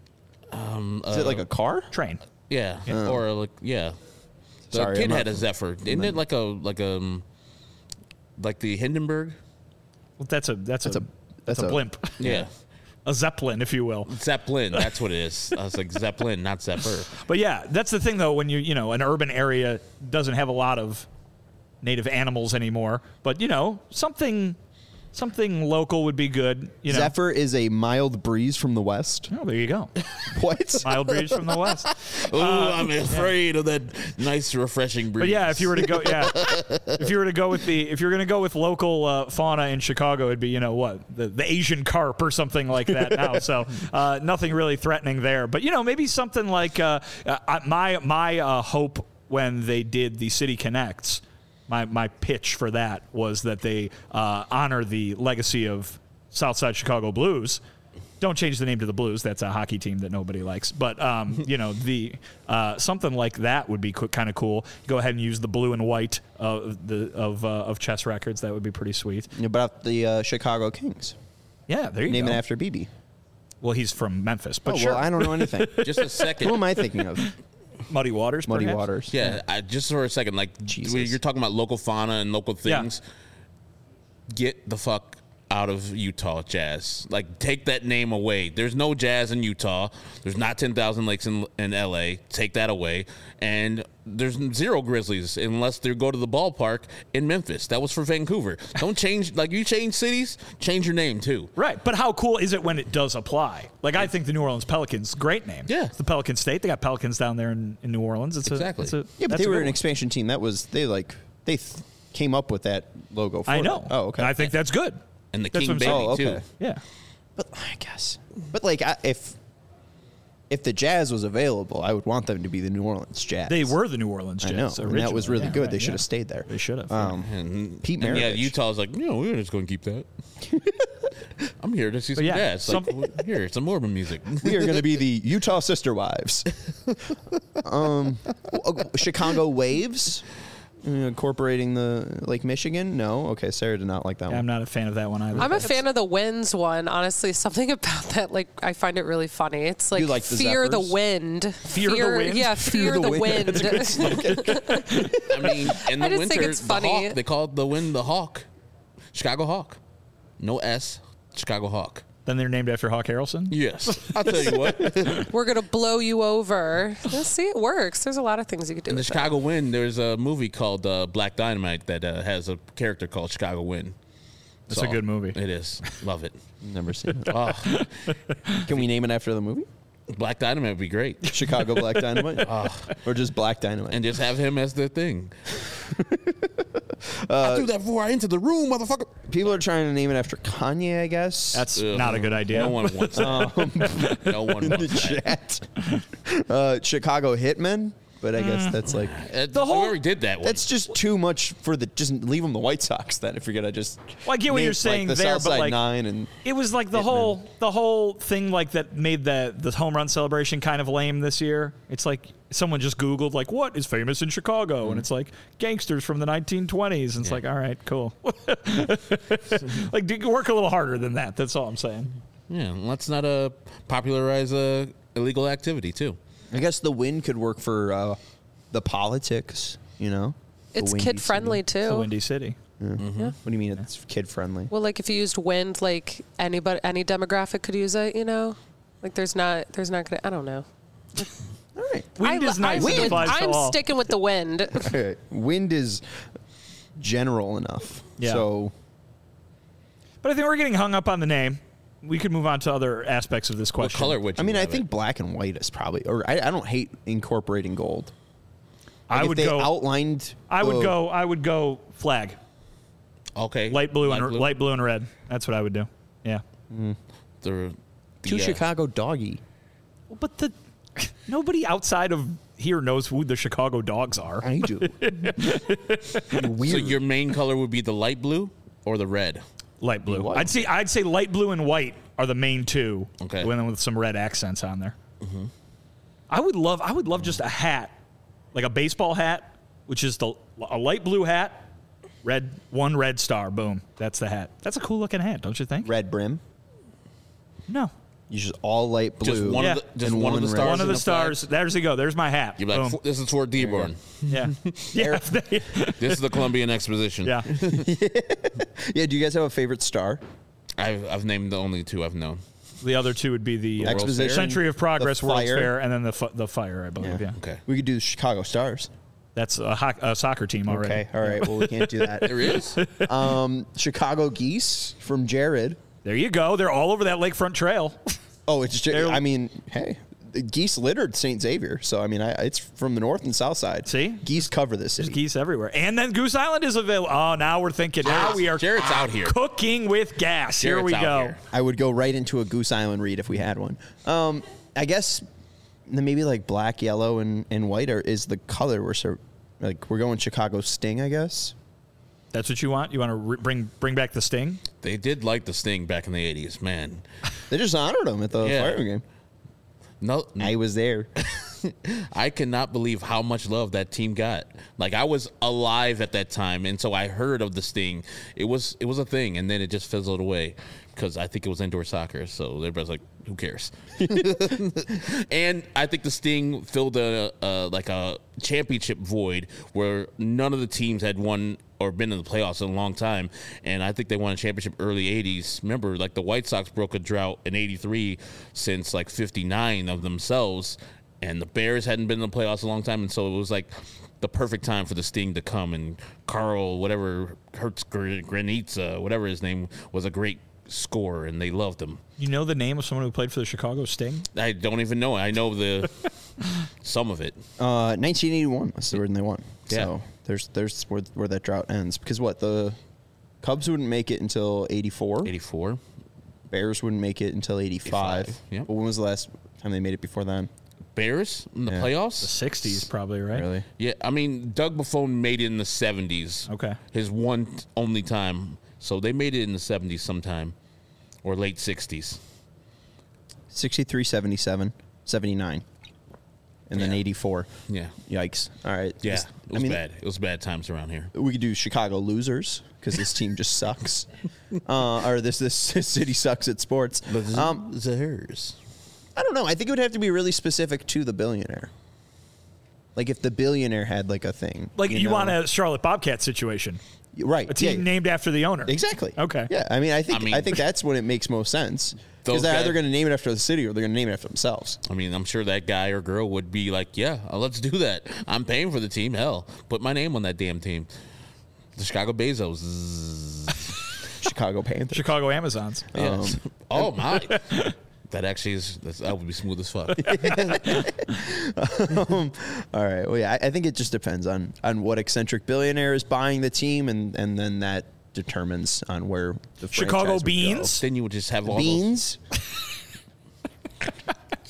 Um, is it like a car? Train. Yeah. Or like yeah. The Sorry, kid I'm not- had a Zephyr. Isn't it like a like a um, like the Hindenburg? Well, that's a that's, That's a, a- that's that's a a- blimp, Yeah. a zeppelin, if you will. Zeppelin. That's what it is. I was like Zeppelin, not Zephyr. But yeah, that's the thing though. When you you know an urban area doesn't have a lot of native animals anymore, but you know something something local would be good. You know, Zephyr is a mild breeze from the west. Oh, there you go. What? Mild breeze from the west. Oh, I'm afraid of that nice, refreshing breeze. But yeah, if you were to go, yeah, if you were to go with the, if you're going to go with local uh, fauna in Chicago, it'd be you know what the, the Asian carp or something like that now. So uh, nothing really threatening there. But you know maybe something like uh, uh, my my uh, hope when they did the City Connects. My, my pitch for that was that they uh, honor the legacy of Southside Chicago Blues. Don't change the name to the Blues. That's a hockey team that nobody likes. But um, you know, the uh, something like that would be co- kind of cool. Go ahead and use the blue and white of the of uh, of chess records. That would be pretty sweet. Yeah, about the uh, Chicago Kings. Yeah, there you Name go. it after B B. Well, he's from Memphis, but Oh, sure. well, I don't know anything. just a Who second. am I thinking of? Muddy Waters. Muddy perhaps? Waters. Yeah, I, just for a second, like Jesus. when you're talking about local fauna and local Yeah. things. Get the fuck out of Utah Jazz. Like, take that name away. There's no Jazz in Utah. There's not ten thousand Lakes in, in L A. Take that away. And there's zero Grizzlies unless they go to the ballpark in Memphis. That was for Vancouver. Don't change, like, you change cities, change your name too. Right, but how cool is it when it does apply? Like I think the New Orleans Pelicans, great name. Yeah. it's the Pelican State. They got Pelicans down there in, in New Orleans. It's Exactly. A, it's a, Yeah, but that's they a were good an one. expansion team. That was they like they th- came up with that logo. For I it. know. Oh, okay. I think that's good. And the That's King what I'm Baby saying. Oh, okay. too. Yeah. But I guess. But like, I, if if the Jazz was available, I would want them to be the New Orleans Jazz. They were the New Orleans I Jazz. know, and that was originally. really Yeah, good. right, they should yeah. have stayed there. They should have. Um, And, Pete and yeah, Maravich. Utah's like, no, we're just going to keep that. I'm here to see some yeah, jazz. some- Like, here, some Mormon music. we are going to be the Utah Sister Wives. um, uh, Chicago Waves, uh, incorporating the Lake Michigan. No, okay, Sarah did not like that Yeah, one. I'm not a fan of that one either. I'm a fan of the winds one. Honestly, something about that, like, I find it really funny. It's like, You like the fear the Zephyrs? wind. Fear the wind? Yeah, fear, the, wind. I mean, in the I just winter, think it's the funny. Hawk, they call it the wind the Hawk. Chicago Hawk. No S, Chicago Hawk. Then they're named after Hawk Harrelson. Yes. I'll tell you what. In We're gonna blow you over. Let's see, it works. There's a lot of things you could do. the with that. Chicago Wind, there's a movie called uh, Black Dynamite that uh, has a character called Chicago Wind. That's a good movie. It is. Love it. Never seen it. Oh, Can we name it after the movie? Black Dynamite would be great. Chicago Black Dynamite, or just Black Dynamite? And just have him as the thing. I do that before I enter the room, motherfucker. People are trying to name it after Kanye, I guess. That's Ugh. not a good idea. No one wants that. no one in the wants that. chat. uh, Chicago Hitmen. but I guess that's like Uh, The whole- we already did that one. that's just too much for the. Just leave them the White Sox then. If you're gonna just. Well, I get what name, you're saying like, the there, but, Southside like, Nine and It was like the whole the whole thing like that made the the home run celebration kind of lame this year. It's like someone just Googled like what is famous in Chicago, and it's like gangsters from the nineteen twenties, and it's Yeah. like all right, cool. Like do, work a little harder than that. That's all I'm saying. yeah, let's not uh, popularize uh, illegal activity too. I guess the wind could work for uh, the politics. You know, The It's windy kid friendly city. It's a too. windy city. What do you mean it's kid friendly? Well, like if you used wind, like anybody, any demographic could use it. You know, like there's not, there's not gonna. I don't know. All right. Wind I, is nice. I'm, It with- applies to I'm all. sticking with the wind. Okay. Wind is general enough. Yeah. So But I think we're getting hung up on the name. We could move on to other aspects of this What question. color would you I mean, I have think it? black and white is probably. Or I, I don't hate incorporating gold. Like I if would they go. outlined. I would the- go. I would go flag. Okay. Light blue and blue. light blue and red. That's what I would do. Yeah. The, the, to uh, Chicago doggy. Well, but the nobody outside of here knows who the Chicago Dogs are. I do. Weird. So your main color would be the light blue or the red? Light blue. White. I'd say I'd say light blue and white are the main two. Okay. And then with some red accents on there. Mm-hmm. I would love. I would love just a hat, like a baseball hat, which is the a light blue hat, red one red star. Boom. That's the hat. That's a cool looking hat, don't you think? red brim. No. You just all light blue. Just one Yeah. of the, just And one, of one the red. stars. One of in the flag? stars. There's you go. There's my hat. You'd be like, Boom. this is Fort Dearborn. Yeah. yeah. This is the Columbian Exposition. yeah. Yeah. Do you guys have a favorite star? I've, I've named the only two I've known. The other two would be the uh, Exposition, Century of Progress, the World's Fire. Fair, and then the fu- the Fire, I believe. Yeah. Okay. We could do the Chicago Stars. That's a, ho- a soccer team already. Okay. All right. Well, we can't do that. There is? Um, Chicago Geese from Jared. There you go. They're all over that lakefront trail. Oh, it's just. They're- I mean, hey, the geese littered Saint Xavier. So I mean, I, it's from the north and south side. See? geese cover this There's city. geese everywhere. And then Goose Island is available. Oh, now we're thinking. Now Jared's- we are Jared's out here. cooking with gas. Here Jared's we out go. here. I would go right into a Goose Island read if we had one. Um, I guess then maybe like black, yellow, and, and white are, is the color we're so like we're going Chicago Sting, I guess. That's what you want? You want to re- bring bring back the Sting? They did like the Sting back in the eighties, man. They just honored him at the Yeah. Fire game. No, I was there. I cannot believe how much love that team got. Like I was alive at that time, and so I heard of the Sting. It was it was a thing, and then it just fizzled away because I think it was indoor soccer. So everybody's like, "Who cares?" And I think the Sting filled a, a like a championship void where none of the teams had won or been in the playoffs in a long time. And I think they won a championship early eighties. Remember, like the White Sox broke a drought in eighty-three since like fifty-nine of themselves. And the Bears hadn't been in the playoffs a long time. And so it was like the perfect time for the Sting to come. And Carl, whatever, Hertz Granitza, whatever his name, was a great scorer. And they loved him. You know the name of someone who played for the Chicago Sting? I don't even know. I know the some of it. Uh, nineteen eighty-one was the when they won. Yeah. So there's there's where, where that drought ends because what the Cubs wouldn't make it until eighty-four. eighty-four. Bears wouldn't make it until eighty-five. eighty-five, yeah. But when was the last time they made it before then? Bears in the Yeah. The playoffs? sixties, probably, right? Really? Yeah, I mean, Doug Buffon made it in the seventies. Okay. His one t- only time. So they made it in the seventies sometime or late sixties. sixty-three, seventy-seven, seventy-nine, and then Yeah. eighty-four. Yeah. Yikes! All right. Yeah, This- it was bad. It was bad times around here. We could do Chicago losers because this team just sucks, uh, or this this city sucks at sports. Um, the hers. I don't know. I think it would have to be really specific to the billionaire. Like if the billionaire had like a thing, Like you, know? want a Charlotte Bobcat situation. right? A team yeah. named after the owner. Exactly. Okay. Yeah. I mean, I think I I, mean- think that's when it makes most sense Those because they're either guys- going to name it after the city or they're going to name it after themselves. I mean, I'm sure that guy or girl would be like, yeah, uh, let's do that. I'm paying for the team. Hell, put my name on that damn team. The Chicago Bezos. Zzz. Chicago Panthers. Chicago Amazons. Yes. oh, my. That actually is, that's, that would be smooth as fuck. um, all right. Well, yeah, I, I think it just depends on on what eccentric billionaire is buying the team, and and then that determines on where the Chicago franchise would go. Beans. Then you would just have all Beans.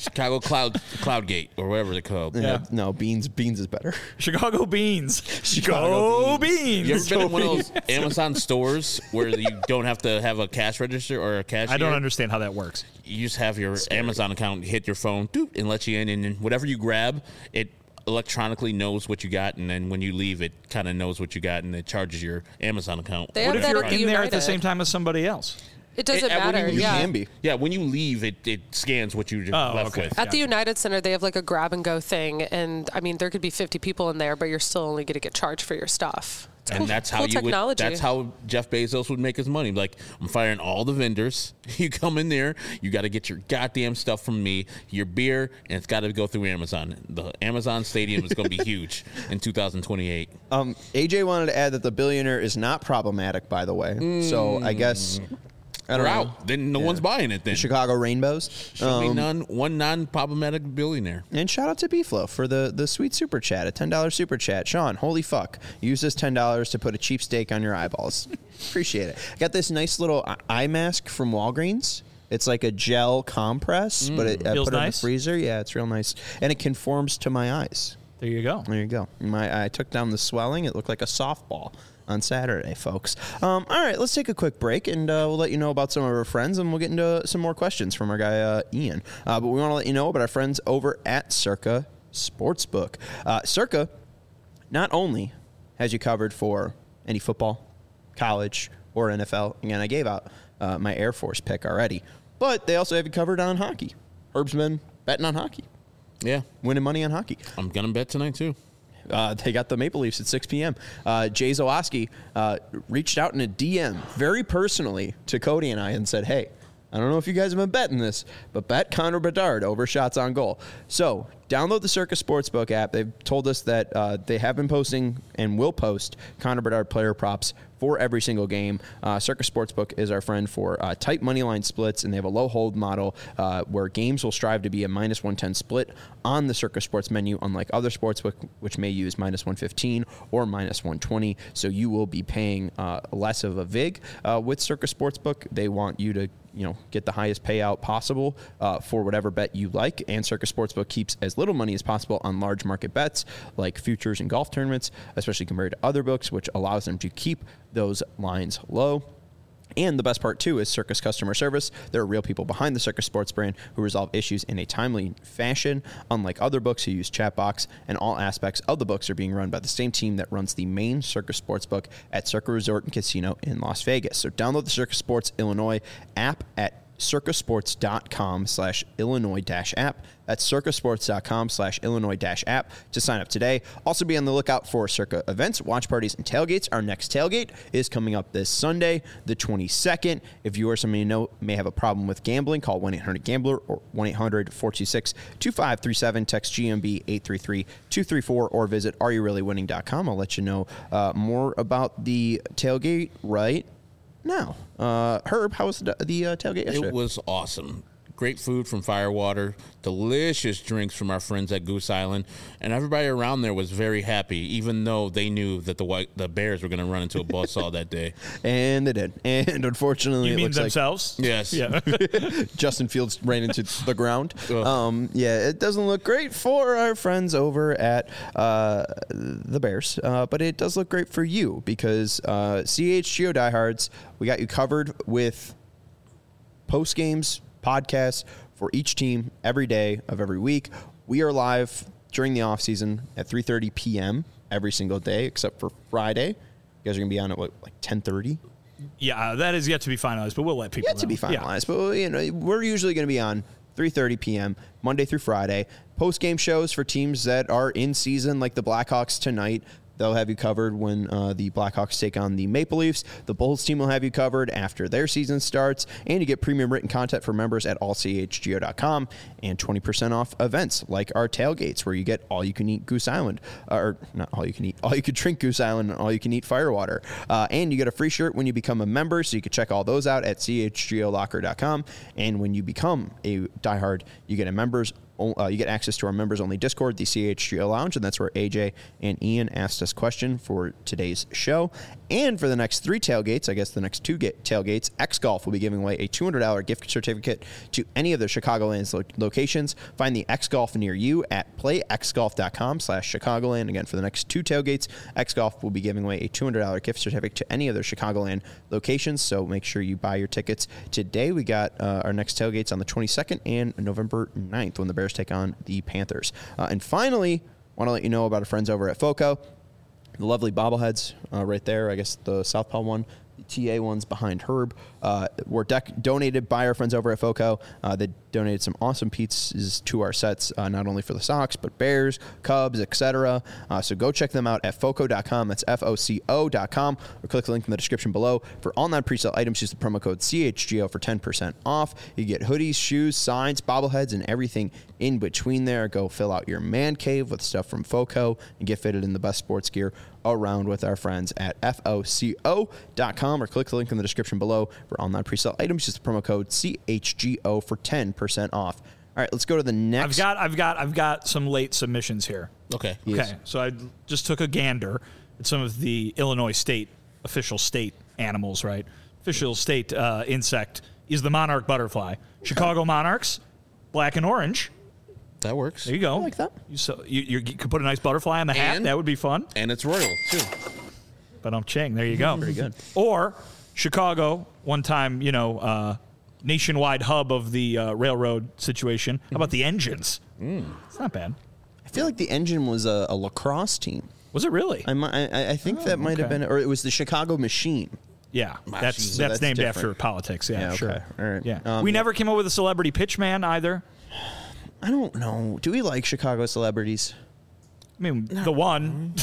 Chicago Cloud Cloudgate or whatever they're called. Yeah. Uh, no, beans. Beans is better. Chicago beans. Chicago Go beans. You ever been in one of those Amazon stores where you don't have to have a cash register or a cashier? I don't understand how that works. You just have your Amazon account, hit your phone, doop, and let you in, and then whatever you grab, it electronically knows what you got, and then when you leave, it kind of knows what you got, and it charges your Amazon account. They What have if that you're at the in there at the United. same time as somebody else? It doesn't It- uh, when matter. you- you yeah. Can be. Yeah, when you leave, it, it scans what you Oh, left okay. with. At the United Center, they have like a grab and go thing, and I mean, there could be fifty people in there, but you're still only going to get charged for your stuff. It's And cool, that's how cool you technology. would. That's how Jeff Bezos would make his money. Like, I'm firing all the vendors. You come in there, you got to get your goddamn stuff from me, your beer, and it's got to go through Amazon. The Amazon Stadium is going to be huge in two thousand twenty-eight. Um, A J wanted to add that the billionaire is not problematic, by the way. So I guess I don't We're know. out. Then no one's buying it. Then Chicago Rainbows. should be Um, none. One non-problematic billionaire. And shout out to B-Flow for the, the sweet super chat, a ten dollars super chat. Sean, holy fuck. Use this ten dollars to put a cheap steak on your eyeballs. Appreciate it. Got this nice little eye mask from Walgreens. It's like a gel compress, but it, I Feels put it in the nice? freezer. Yeah, it's real nice. And it conforms to my eyes. There you go. There you go. My I took down the swelling. It looked like a softball on Saturday, folks. Um, all right, let's take a quick break, and uh, we'll let you know about some of our friends, and we'll get into some more questions from our guy, uh, Ian. Uh, but we want to let you know about our friends over at Circa Sportsbook. Uh, Circa not only has you covered for any football, college, or N F L. Again, I gave out uh, my Air Force pick already, but they also have you covered on hockey. Herbsman betting on hockey, Yeah, winning money on hockey. I'm gonna bet tonight too. Uh, they got the Maple Leafs at six p.m. Uh, Jay Zawoski uh, reached out in a D M very personally to Cody and I and said, hey, I don't know if you guys have been betting this, but bet Connor Bedard over shots on goal. So download the Circa Sportsbook app. They've told us that uh, they have been posting and will post Connor Bedard player props for every single game. Uh, Circa Sportsbook is our friend for uh, tight money line splits, and they have a low hold model uh, where games will strive to be a minus one ten split on the Circa Sports menu, unlike other sportsbook, which may use minus one fifteen or minus one twenty. So you will be paying uh, less of a vig uh, with Circa Sportsbook. They want you to you know, get the highest payout possible uh, for whatever bet you like. And Circa Sportsbook keeps as little money as possible on large market bets like futures and golf tournaments, especially compared to other books, which allows them to keep those lines low. And the best part, too, is Circa's customer service. There are real people behind the Circa Sports brand who resolve issues in a timely fashion, unlike other books who use chatbots, and all aspects of the books are being run by the same team that runs the main Circa Sportsbook at Circa Resort and Casino in Las Vegas. So download the Circa Sports Illinois app at circasports.com slash Illinois dash app. That's circasports.com slash Illinois dash app to sign up today. Also be on the lookout for Circa events, watch parties, and tailgates. Our next tailgate is coming up this Sunday, the twenty-second. If you or somebody you know may have a problem with gambling, call one eight hundred gambler or one eight hundred four two six two five three seven. Text G M B eight three three two three four or visit are you really winning dot com. I'll let you know uh, more about the tailgate right now. Uh, Herb, how was the, the uh, tailgate yesterday? It was awesome. Great food from Firewater, delicious drinks from our friends at Goose Island, and everybody around there was very happy, even though they knew that the white, the Bears were going to run into a buzzsaw that day. And they did. And unfortunately, You it mean looks themselves? Yes. Yeah. like Justin Fields ran into the ground. Ugh. Um, yeah, it doesn't look great for our friends over at uh, the Bears, uh, but it does look great for you because uh, C H G O Diehards, we got you covered with post games, podcasts for each team every day of every week. We are live during the off season at three thirty p.m. every single day except for Friday. You guys are going to be on at what, like ten thirty? Yeah, that is yet to be finalized, but we'll let people Yet know. to be finalized, but you know we're usually going to be on three thirty p.m. Monday through Friday. Post game shows for teams that are in season, like the Blackhawks tonight. They'll have you covered when uh, the Blackhawks take on the Maple Leafs. The Bulls team will have you covered after their season starts. And you get premium written content for members at all c h g o dot com and twenty percent off events like our tailgates where you get all-you-can-eat Goose Island. Uh, or not all-you-can-eat, all-you-can-drink Goose Island and all-you-can-eat Firewater. Uh, and you get a free shirt when you become a member, so you can check all those out at c h g o locker dot com. And when you become a diehard, you get a members Uh, you get access to our members-only Discord, the C H G O Lounge, and that's where A J and Ian asked us question for today's show. And for the next three tailgates, I guess the next two get tailgates, X Golf will be giving away a two hundred dollars gift certificate to any of their Chicagoland lo- locations. Find the X Golf near you at playxgolf.com slash Chicagoland. Again, for the next two tailgates, X Golf will be giving away a two hundred dollars gift certificate to any of their Chicagoland locations, so make sure you buy your tickets today. We got uh, our next tailgates on the twenty-second and November ninth when the Bears take on the Panthers. Uh, and finally, want to let you know about our friends over at FOCO. The lovely bobbleheads uh, right there. I guess the Southpaw one, the T A ones behind Herb, uh, were dec- donated by our friends over at FOCO. Uh, they donated some awesome pizzas to our sets, uh, not only for the Sox, but Bears, Cubs, et cetera. Uh, so go check them out at foco dot com. That's F O C O dot com. Or click the link in the description below. For all non-presale items, use the promo code C H G O for ten percent off. You get hoodies, shoes, signs, bobbleheads, and everything in between there. Go fill out your man cave with stuff from FOCO and get fitted in the best sports gear around with our friends at F O C O dot com, or click the link in the description below for all non-presale items. Use the promo code C H G O for ten percent off. All right, let's go to the next. I've got, I've got, I've got some late submissions here. Okay. Yes. Okay, so I just took a gander at some of the Illinois state official state animals. Right, official state uh, insect is the monarch butterfly. Chicago Monarchs, black and orange. That works. There you go. I like that. You, so you, you could put a nice butterfly on the hat. And- That would be fun. And it's royal, too. But I'm Ching. There you go. Very good. Or Chicago, one time, you know, uh, nationwide hub of the uh, railroad situation. How about the engines? Mm. It's not bad. I feel like the Engine was a, a lacrosse team. Was it really? I, mi- I, I think Oh, that might have okay. been, or it was the Chicago Machine. Yeah, that's So that's, that's named different. after politics. Yeah, Yeah, okay. sure. All right. Yeah, Um, we yeah. never came up with a celebrity pitchman either. I don't know. Do we like Chicago celebrities? I mean, the one.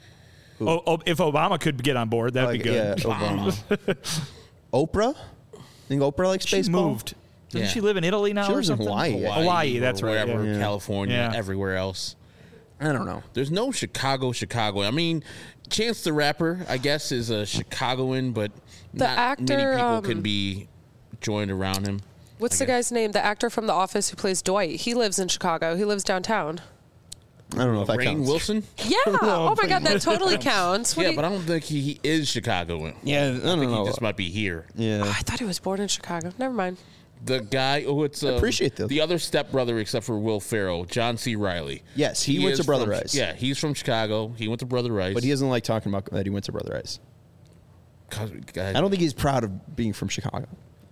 oh, oh, if Obama could get on board, that'd Like, be good. Yeah, Obama. Oprah? Think Oprah likes She baseball? moved. Doesn't Yeah. she live in Italy now She or lives in something? Hawaii. Hawaii, or that's right. Wherever, yeah. Yeah. California, Yeah. everywhere else. I don't know. There's no Chicago, Chicago. I mean, Chance the Rapper, I guess, is a Chicagoan, but The not actor, many people um, can be joined around him. What's I the guess. guy's name? The actor from The Office who plays Dwight. He lives in Chicago. He lives downtown. I don't know if that Rainn counts. Wilson? Yeah. Oh my God, that totally counts. What Yeah, do you- but I don't think he, he is Chicagoan. Yeah, I I don't think know. he just might be here. Yeah. I thought he was born in Chicago. Never mind. The guy who it's uh, appreciate the- the other stepbrother except for Will Ferrell, John C. Riley. Yes, he went is to Brother from- Rice. Yeah, he's from Chicago. He went to Brother Rice. But he doesn't like talking about that he went to Brother Rice. God, I don't think he's proud of being from Chicago.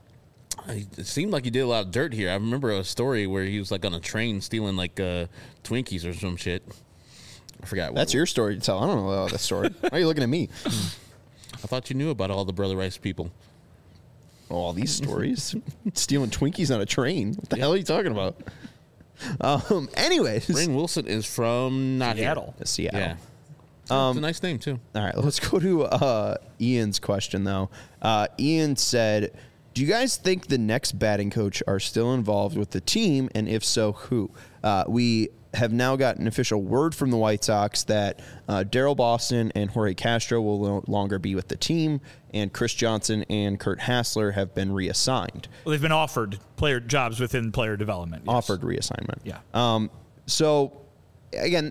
It seemed like he did a lot of dirt here. I remember a story where he was like on a train stealing like uh, Twinkies or some shit. I forgot. What That's your story to tell. I don't know about that story. Why are you looking at me? I thought you knew about all the Brother Rice people. Oh, all these stories. Stealing Twinkies on a train. What the hell are you talking about? Um. Anyways. Rainn Wilson is from not Seattle. Here. Seattle. Yeah. Um, it's a nice name too. All right, let's go to uh, Ian's question, though. Uh, Ian said, do you guys think the next batting coach are still involved with the team, and if so, who? Uh, we have now got an official word from the White Sox that uh, Daryl Boston and Jorge Castro will no longer be with the team, and Chris Johnson and Kurt Hassler have been reassigned. Well, they've been offered player jobs within player development. yes. Offered reassignment. Yeah. Um, so, again,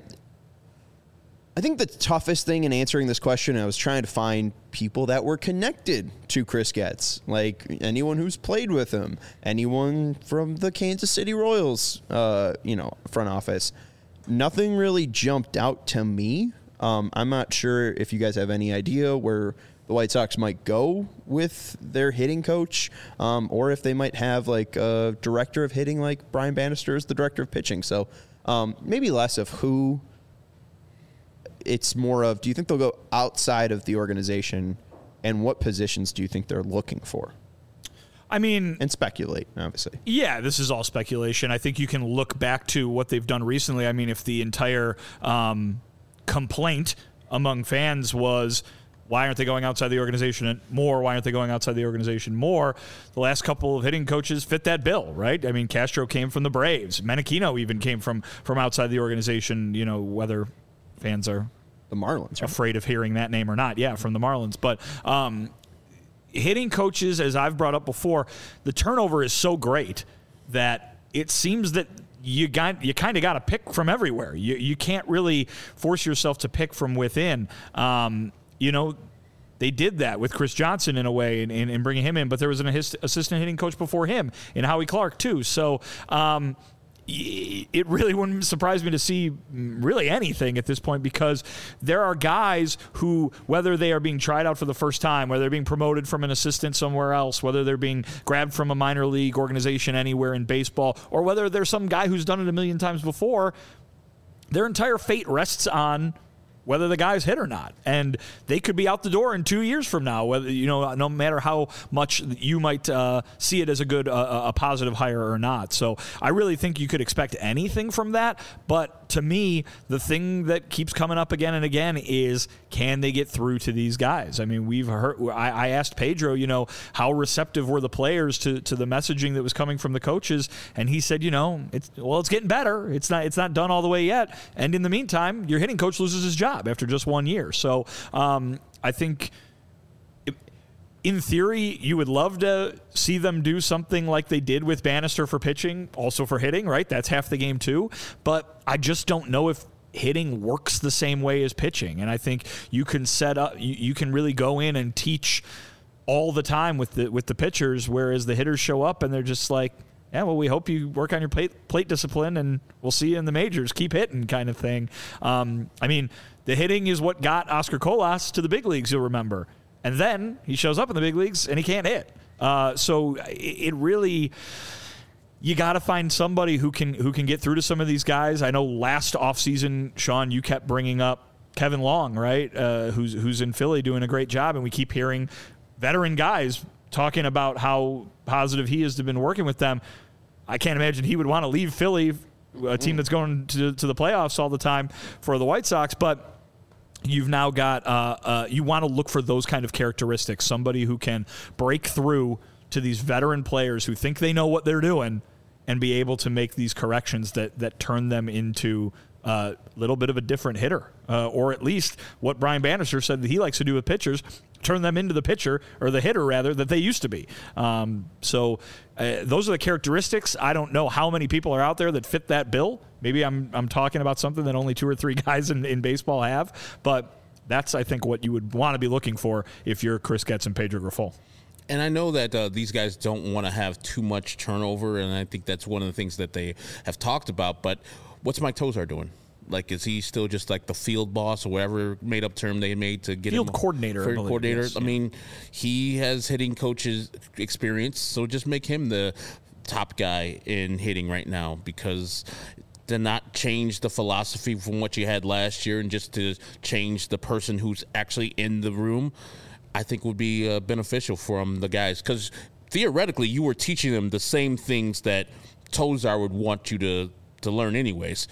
I think the toughest thing in answering this question, I was trying to find people that were connected to Chris Getz, like anyone who's played with him, anyone from the Kansas City Royals, uh, you know, front office. Nothing really jumped out to me. Um, I'm not sure if you guys have any idea where the White Sox might go with their hitting coach, um, or if they might have like a director of hitting, like Brian Bannister is the director of pitching. So um, maybe less of who. It's more of, do you think they'll go outside of the organization, and what positions do you think they're looking for? I mean, And speculate, obviously. yeah, this is all speculation. I think you can look back to what they've done recently. I mean, if the entire um, complaint among fans was, why aren't they going outside the organization more? Why aren't they going outside the organization more? The last couple of hitting coaches fit that bill, right? I mean, Castro came from the Braves. Menachino even came from from outside the organization, you know, whether fans are The Marlins, right? afraid of hearing that name or not. Yeah, from the Marlins. But um, hitting coaches, as I've brought up before, the turnover is so great that it seems that you got you kind of got to pick from everywhere. You you can't really force yourself to pick from within. Um, you know, they did that with Chris Johnson in a way in, in, in bringing him in, but there was an assistant hitting coach before him in Howie Clark too. So um, it really wouldn't surprise me to see really anything at this point, because there are guys who, whether they are being tried out for the first time, whether they're being promoted from an assistant somewhere else, whether they're being grabbed from a minor league organization anywhere in baseball, or whether there's some guy who's done it a million times before, their entire fate rests on whether the guy's hit or not. And they could be out the door in two years from now, whether, you know, no matter how much you might uh, see it as a good, uh, a positive hire or not. So I really think you could expect anything from that. But to me, the thing that keeps coming up again and again is, can they get through to these guys? I mean, we've heard, I, I asked Pedro, you know, how receptive were the players to, to the messaging that was coming from the coaches? And he said, you know, it's, well, it's getting better. It's not, it's not done all the way yet. And in the meantime, your hitting coach loses his job after just one year. So um, I think in theory, you would love to see them do something like they did with Bannister for pitching, also for hitting, right? That's half the game too. But I just don't know if hitting works the same way as pitching. And I think you can set up, you, you can really go in and teach all the time with the with the pitchers, whereas the hitters show up and they're just like, yeah, well, we hope you work on your plate, plate discipline, and we'll see you in the majors. Keep hitting, kind of thing. Um, I mean, the hitting is what got Oscar Colas to the big leagues, you'll remember. And then he shows up in the big leagues, and he can't hit. Uh, so it, it really, you got to find somebody who can who can get through to some of these guys. I know last offseason, Sean, you kept bringing up Kevin Long, right, uh, who's who's in Philly doing a great job, and we keep hearing veteran guys talking about how positive he is to been working with them. I can't imagine he would want to leave Philly, a team that's going to, to the playoffs all the time, for the White Sox. But you've now got uh, uh, you want to look for those kind of characteristics, somebody who can break through to these veteran players who think they know what they're doing and be able to make these corrections that that turn them into a uh, little bit of a different hitter, uh, or at least what Brian Bannister said that he likes to do with pitchers, turn them into the pitcher, or the hitter rather, that they used to be. Um, so uh, those are the characteristics. I don't know how many people are out there that fit that bill. Maybe I'm I'm talking about something that only two or three guys in, in baseball have, but that's, I think, what you would want to be looking for if you're Chris Getz and Pedro Grifol. And I know that uh, these guys don't want to have too much turnover, and I think that's one of the things that they have talked about. But what's Mike Tosar doing? Like, is he still just like the field boss or whatever made-up term they made to get field him? Coordinator, field believe, coordinator. Yes, I yeah. mean, he has hitting coaches experience, so just make him the top guy in hitting right now, because to not change the philosophy from what you had last year and just to change the person who's actually in the room, I think would be uh, beneficial from the guys, because theoretically you were teaching them the same things that Tosar would want you to, to learn anyways.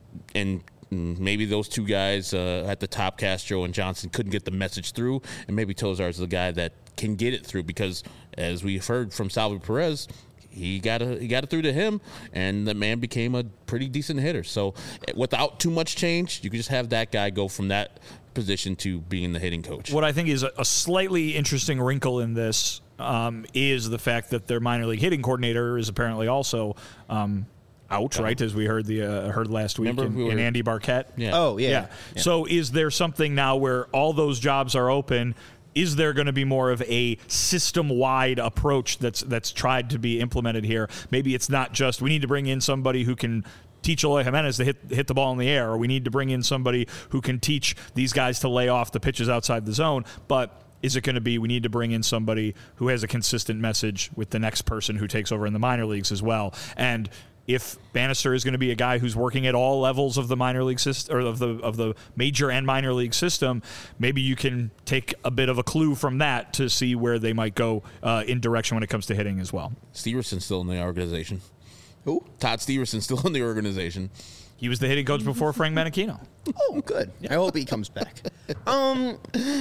And maybe those two guys uh, at the top, Castro and Johnson, couldn't get the message through, and maybe Tosar is the guy that can get it through, because as we've heard from Salvy Perez, he got a, he got it through to him, and the man became a pretty decent hitter. So without too much change, you can just have that guy go from that position to being the hitting coach. What I think is a slightly interesting wrinkle in this um, is the fact that their minor league hitting coordinator is apparently also um, out, right? As we heard the uh, heard last week in, we in Andy Barquette. Yeah. Oh, yeah. yeah. yeah. So is there something now where all those jobs are open? Is there going to be more of a system-wide approach that's that's tried to be implemented here? Maybe it's not just we need to bring in somebody who can teach Eloy Jimenez to hit hit the ball in the air, or we need to bring in somebody who can teach these guys to lay off the pitches outside the zone. But is it going to be we need to bring in somebody who has a consistent message with the next person who takes over in the minor leagues as well? And if Bannister is going to be a guy who's working at all levels of the minor league system, or of the of the major and minor league system, maybe you can take a bit of a clue from that to see where they might go uh, in direction when it comes to hitting as well. Stevenson's still in the organization. Who? Todd Stevenson's still in the organization. He was the hitting coach before Frank Menachino. Oh, good. I hope he comes back. Um,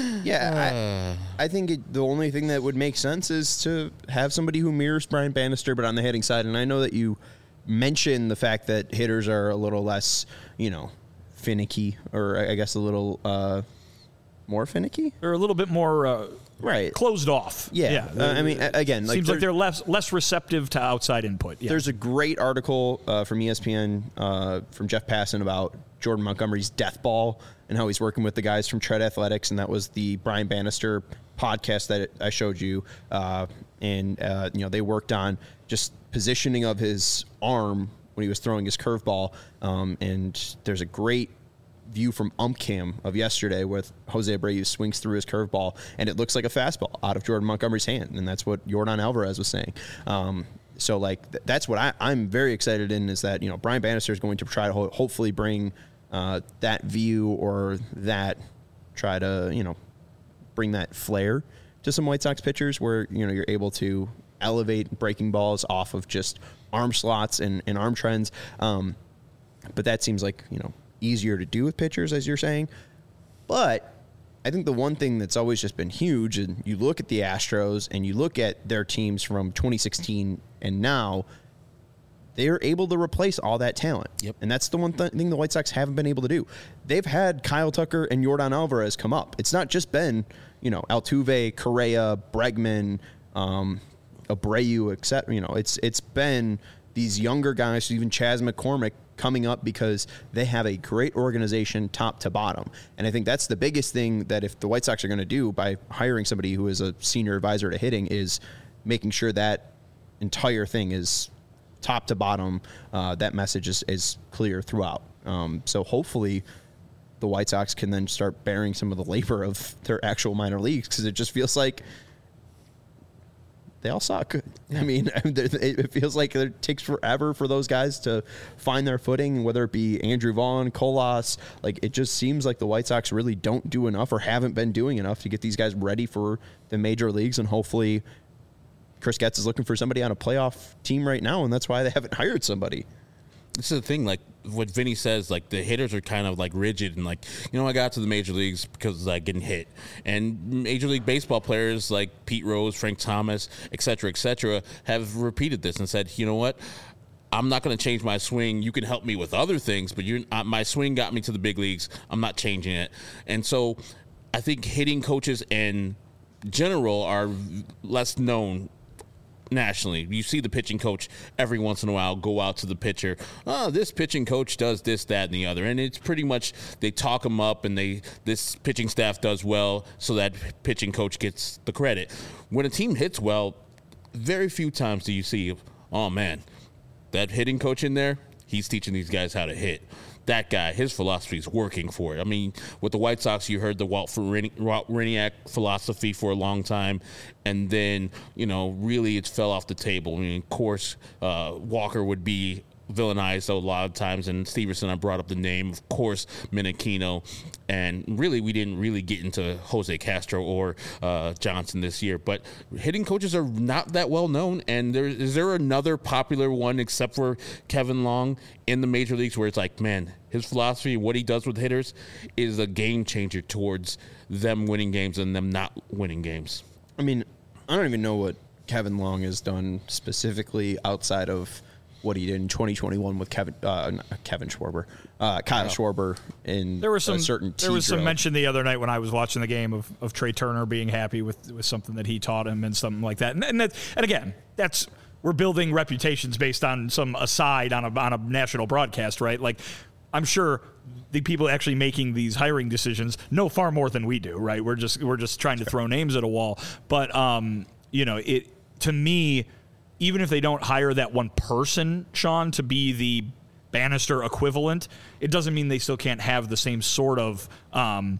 yeah, I, I think it, the only thing that would make sense is to have somebody who mirrors Brian Bannister, but on the hitting side. And I know that you mention the fact that hitters are a little less, you know, finicky, or I guess a little uh, more finicky. They're a little bit more uh, right closed off. Yeah, yeah. Uh, I mean, again, like seems like they're less less receptive to outside input. Yeah. There's a great article uh, from E S P N uh, from Jeff Passan about Jordan Montgomery's death ball and how he's working with the guys from Tread Athletics, and that was the Brian Bannister podcast that I showed you. Uh, and uh, you know, they worked on just positioning of his arm when he was throwing his curveball. Um, and there's a great view from UmpCam of yesterday with Jose Abreu swings through his curveball, and it looks like a fastball out of Jordan Montgomery's hand, and that's what Yordan Alvarez was saying. Um, so, like, th- that's what I, I'm very excited in, is that, you know, Brian Bannister is going to try to ho- hopefully bring uh, that view or that try to, you know, bring that flair to some White Sox pitchers where, you know, you're able to elevate breaking balls off of just arm slots and, and arm trends. Um, but that seems like, you know, easier to do with pitchers, as you're saying. But I think the one thing that's always just been huge, and you look at the Astros and you look at their teams from twenty sixteen and now, they are able to replace all that talent. Yep. And that's the one th- thing the White Sox haven't been able to do. They've had Kyle Tucker and Yordan Alvarez come up. It's not just been, you know, Altuve, Correa, Bregman, um, Abreu, et cetera. You know, it's it's been these younger guys, even Chas McCormick, coming up because they have a great organization top to bottom. And I think that's the biggest thing that if the White Sox are going to do by hiring somebody who is a senior advisor to hitting is making sure that entire thing is top to bottom. Uh, that message is, is clear throughout. Um, so hopefully the White Sox can then start bearing some of the labor of their actual minor leagues, because it just feels like they all suck. I mean, it feels like it takes forever for those guys to find their footing, whether it be Andrew Vaughn, Colas. Like, it just seems like the White Sox really don't do enough or haven't been doing enough to get these guys ready for the major leagues. And hopefully Chris Getz is looking for somebody on a playoff team right now, and that's why they haven't hired somebody. This is the thing, like what Vinny says, like the hitters are kind of like rigid and like, you know, I got to the major leagues because like getting hit. And Major League Baseball players like Pete Rose, Frank Thomas, et cetera, et cetera, have repeated this and said, you know what, I'm not going to change my swing. You can help me with other things, but you, uh, my swing got me to the big leagues. I'm not changing it. And so I think hitting coaches in general are less known nationally. You see the pitching coach every once in a while go out to the pitcher. Oh, this pitching coach does this, that, and the other. And it's pretty much they talk him up, and they this pitching staff does well, so that pitching coach gets the credit. When a team hits well, very few times do you see, oh man, that hitting coach in there, he's teaching these guys how to hit. That guy, his philosophy is working for it. I mean, with the White Sox, you heard the Walt Werniak philosophy for a long time, and then, you know, really it fell off the table. I mean, of course, uh, Walker would be villainized a lot of times, and Stevenson, I brought up the name, of course, Menachino, and really we didn't really get into Jose Castro or uh, Johnson this year, but hitting coaches are not that well known. And there is there another popular one except for Kevin Long in the major leagues where it's like, man, his philosophy, what he does with hitters is a game changer towards them winning games and them not winning games. I mean, I don't even know what Kevin Long has done specifically outside of what he did in twenty twenty-one with Kevin uh, not Kevin Schwarber, uh, Kyle oh. Schwarber in there was some, a certain There was drill. some mention the other night when I was watching the game of, of Trey Turner being happy with, with something that he taught him and something like that. And and, that, and again, that's we're building reputations based on some aside on a on a national broadcast, right? Like, I'm sure the people actually making these hiring decisions know far more than we do, right? We're just we're just trying to throw names at a wall. But um, you know, it to me, even if they don't hire that one person, Sean, to be the Bannister equivalent, it doesn't mean they still can't have the same sort of um,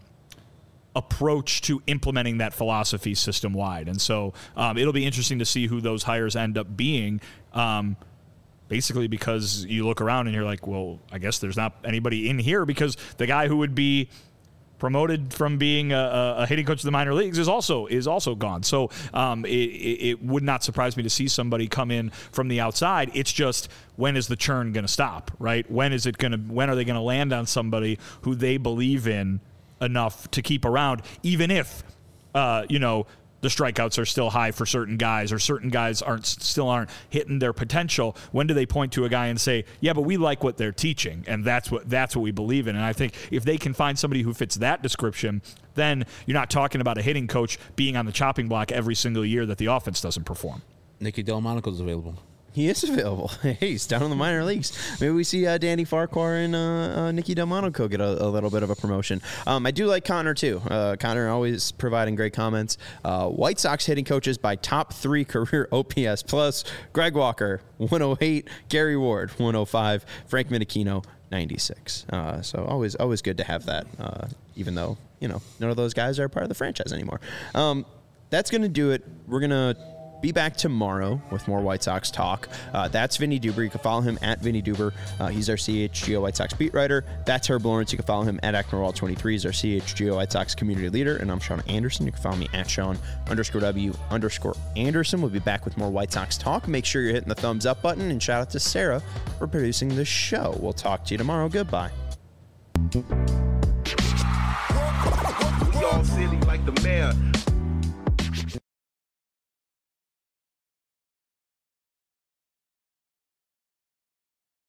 approach to implementing that philosophy system-wide. And so um, it'll be interesting to see who those hires end up being, um, basically because you look around and you're like, well, I guess there's not anybody in here, because the guy who would be promoted from being a, a hitting coach of the minor leagues is also is also gone. So um, it, it would not surprise me to see somebody come in from the outside. It's just, when is the churn going to stop, right? When is it going to? When are they going to land on somebody who they believe in enough to keep around, even if uh, you know the strikeouts are still high for certain guys, or certain guys aren't still aren't hitting their potential, when do they point to a guy and say, yeah, but we like what they're teaching, and that's what that's what we believe in? And I think if they can find somebody who fits that description, then you're not talking about a hitting coach being on the chopping block every single year that the offense doesn't perform. Nicky Delmonico's available. He is available. Hey, he's down in the minor leagues. Maybe we see uh, Danny Farquhar and uh, uh, Nicky Delmonico get a, a little bit of a promotion. Um, I do like Connor, too. Uh, Connor always providing great comments. Uh, White Sox hitting coaches by top three career O P S plus. Greg Walker, one oh eight. Gary Ward, one oh five. Frank Minikino, ninety-six. Uh, so always always good to have that, uh, even though, you know, none of those guys are part of the franchise anymore. Um, that's going to do it. We're going to be back tomorrow with more White Sox talk. Uh, that's Vinny Duber. You can follow him at Vinny Duber. Uh, he's our C H G O White Sox beat writer. That's Herb Lawrence. You can follow him at Acknerwall twenty-three. He's our C H G O White Sox community leader. And I'm Sean Anderson. You can follow me at Sean underscore W underscore Anderson. We'll be back with more White Sox talk. Make sure you're hitting the thumbs up button. And shout out to Sarah for producing the show. We'll talk to you tomorrow. Goodbye. We all silly like the mayor.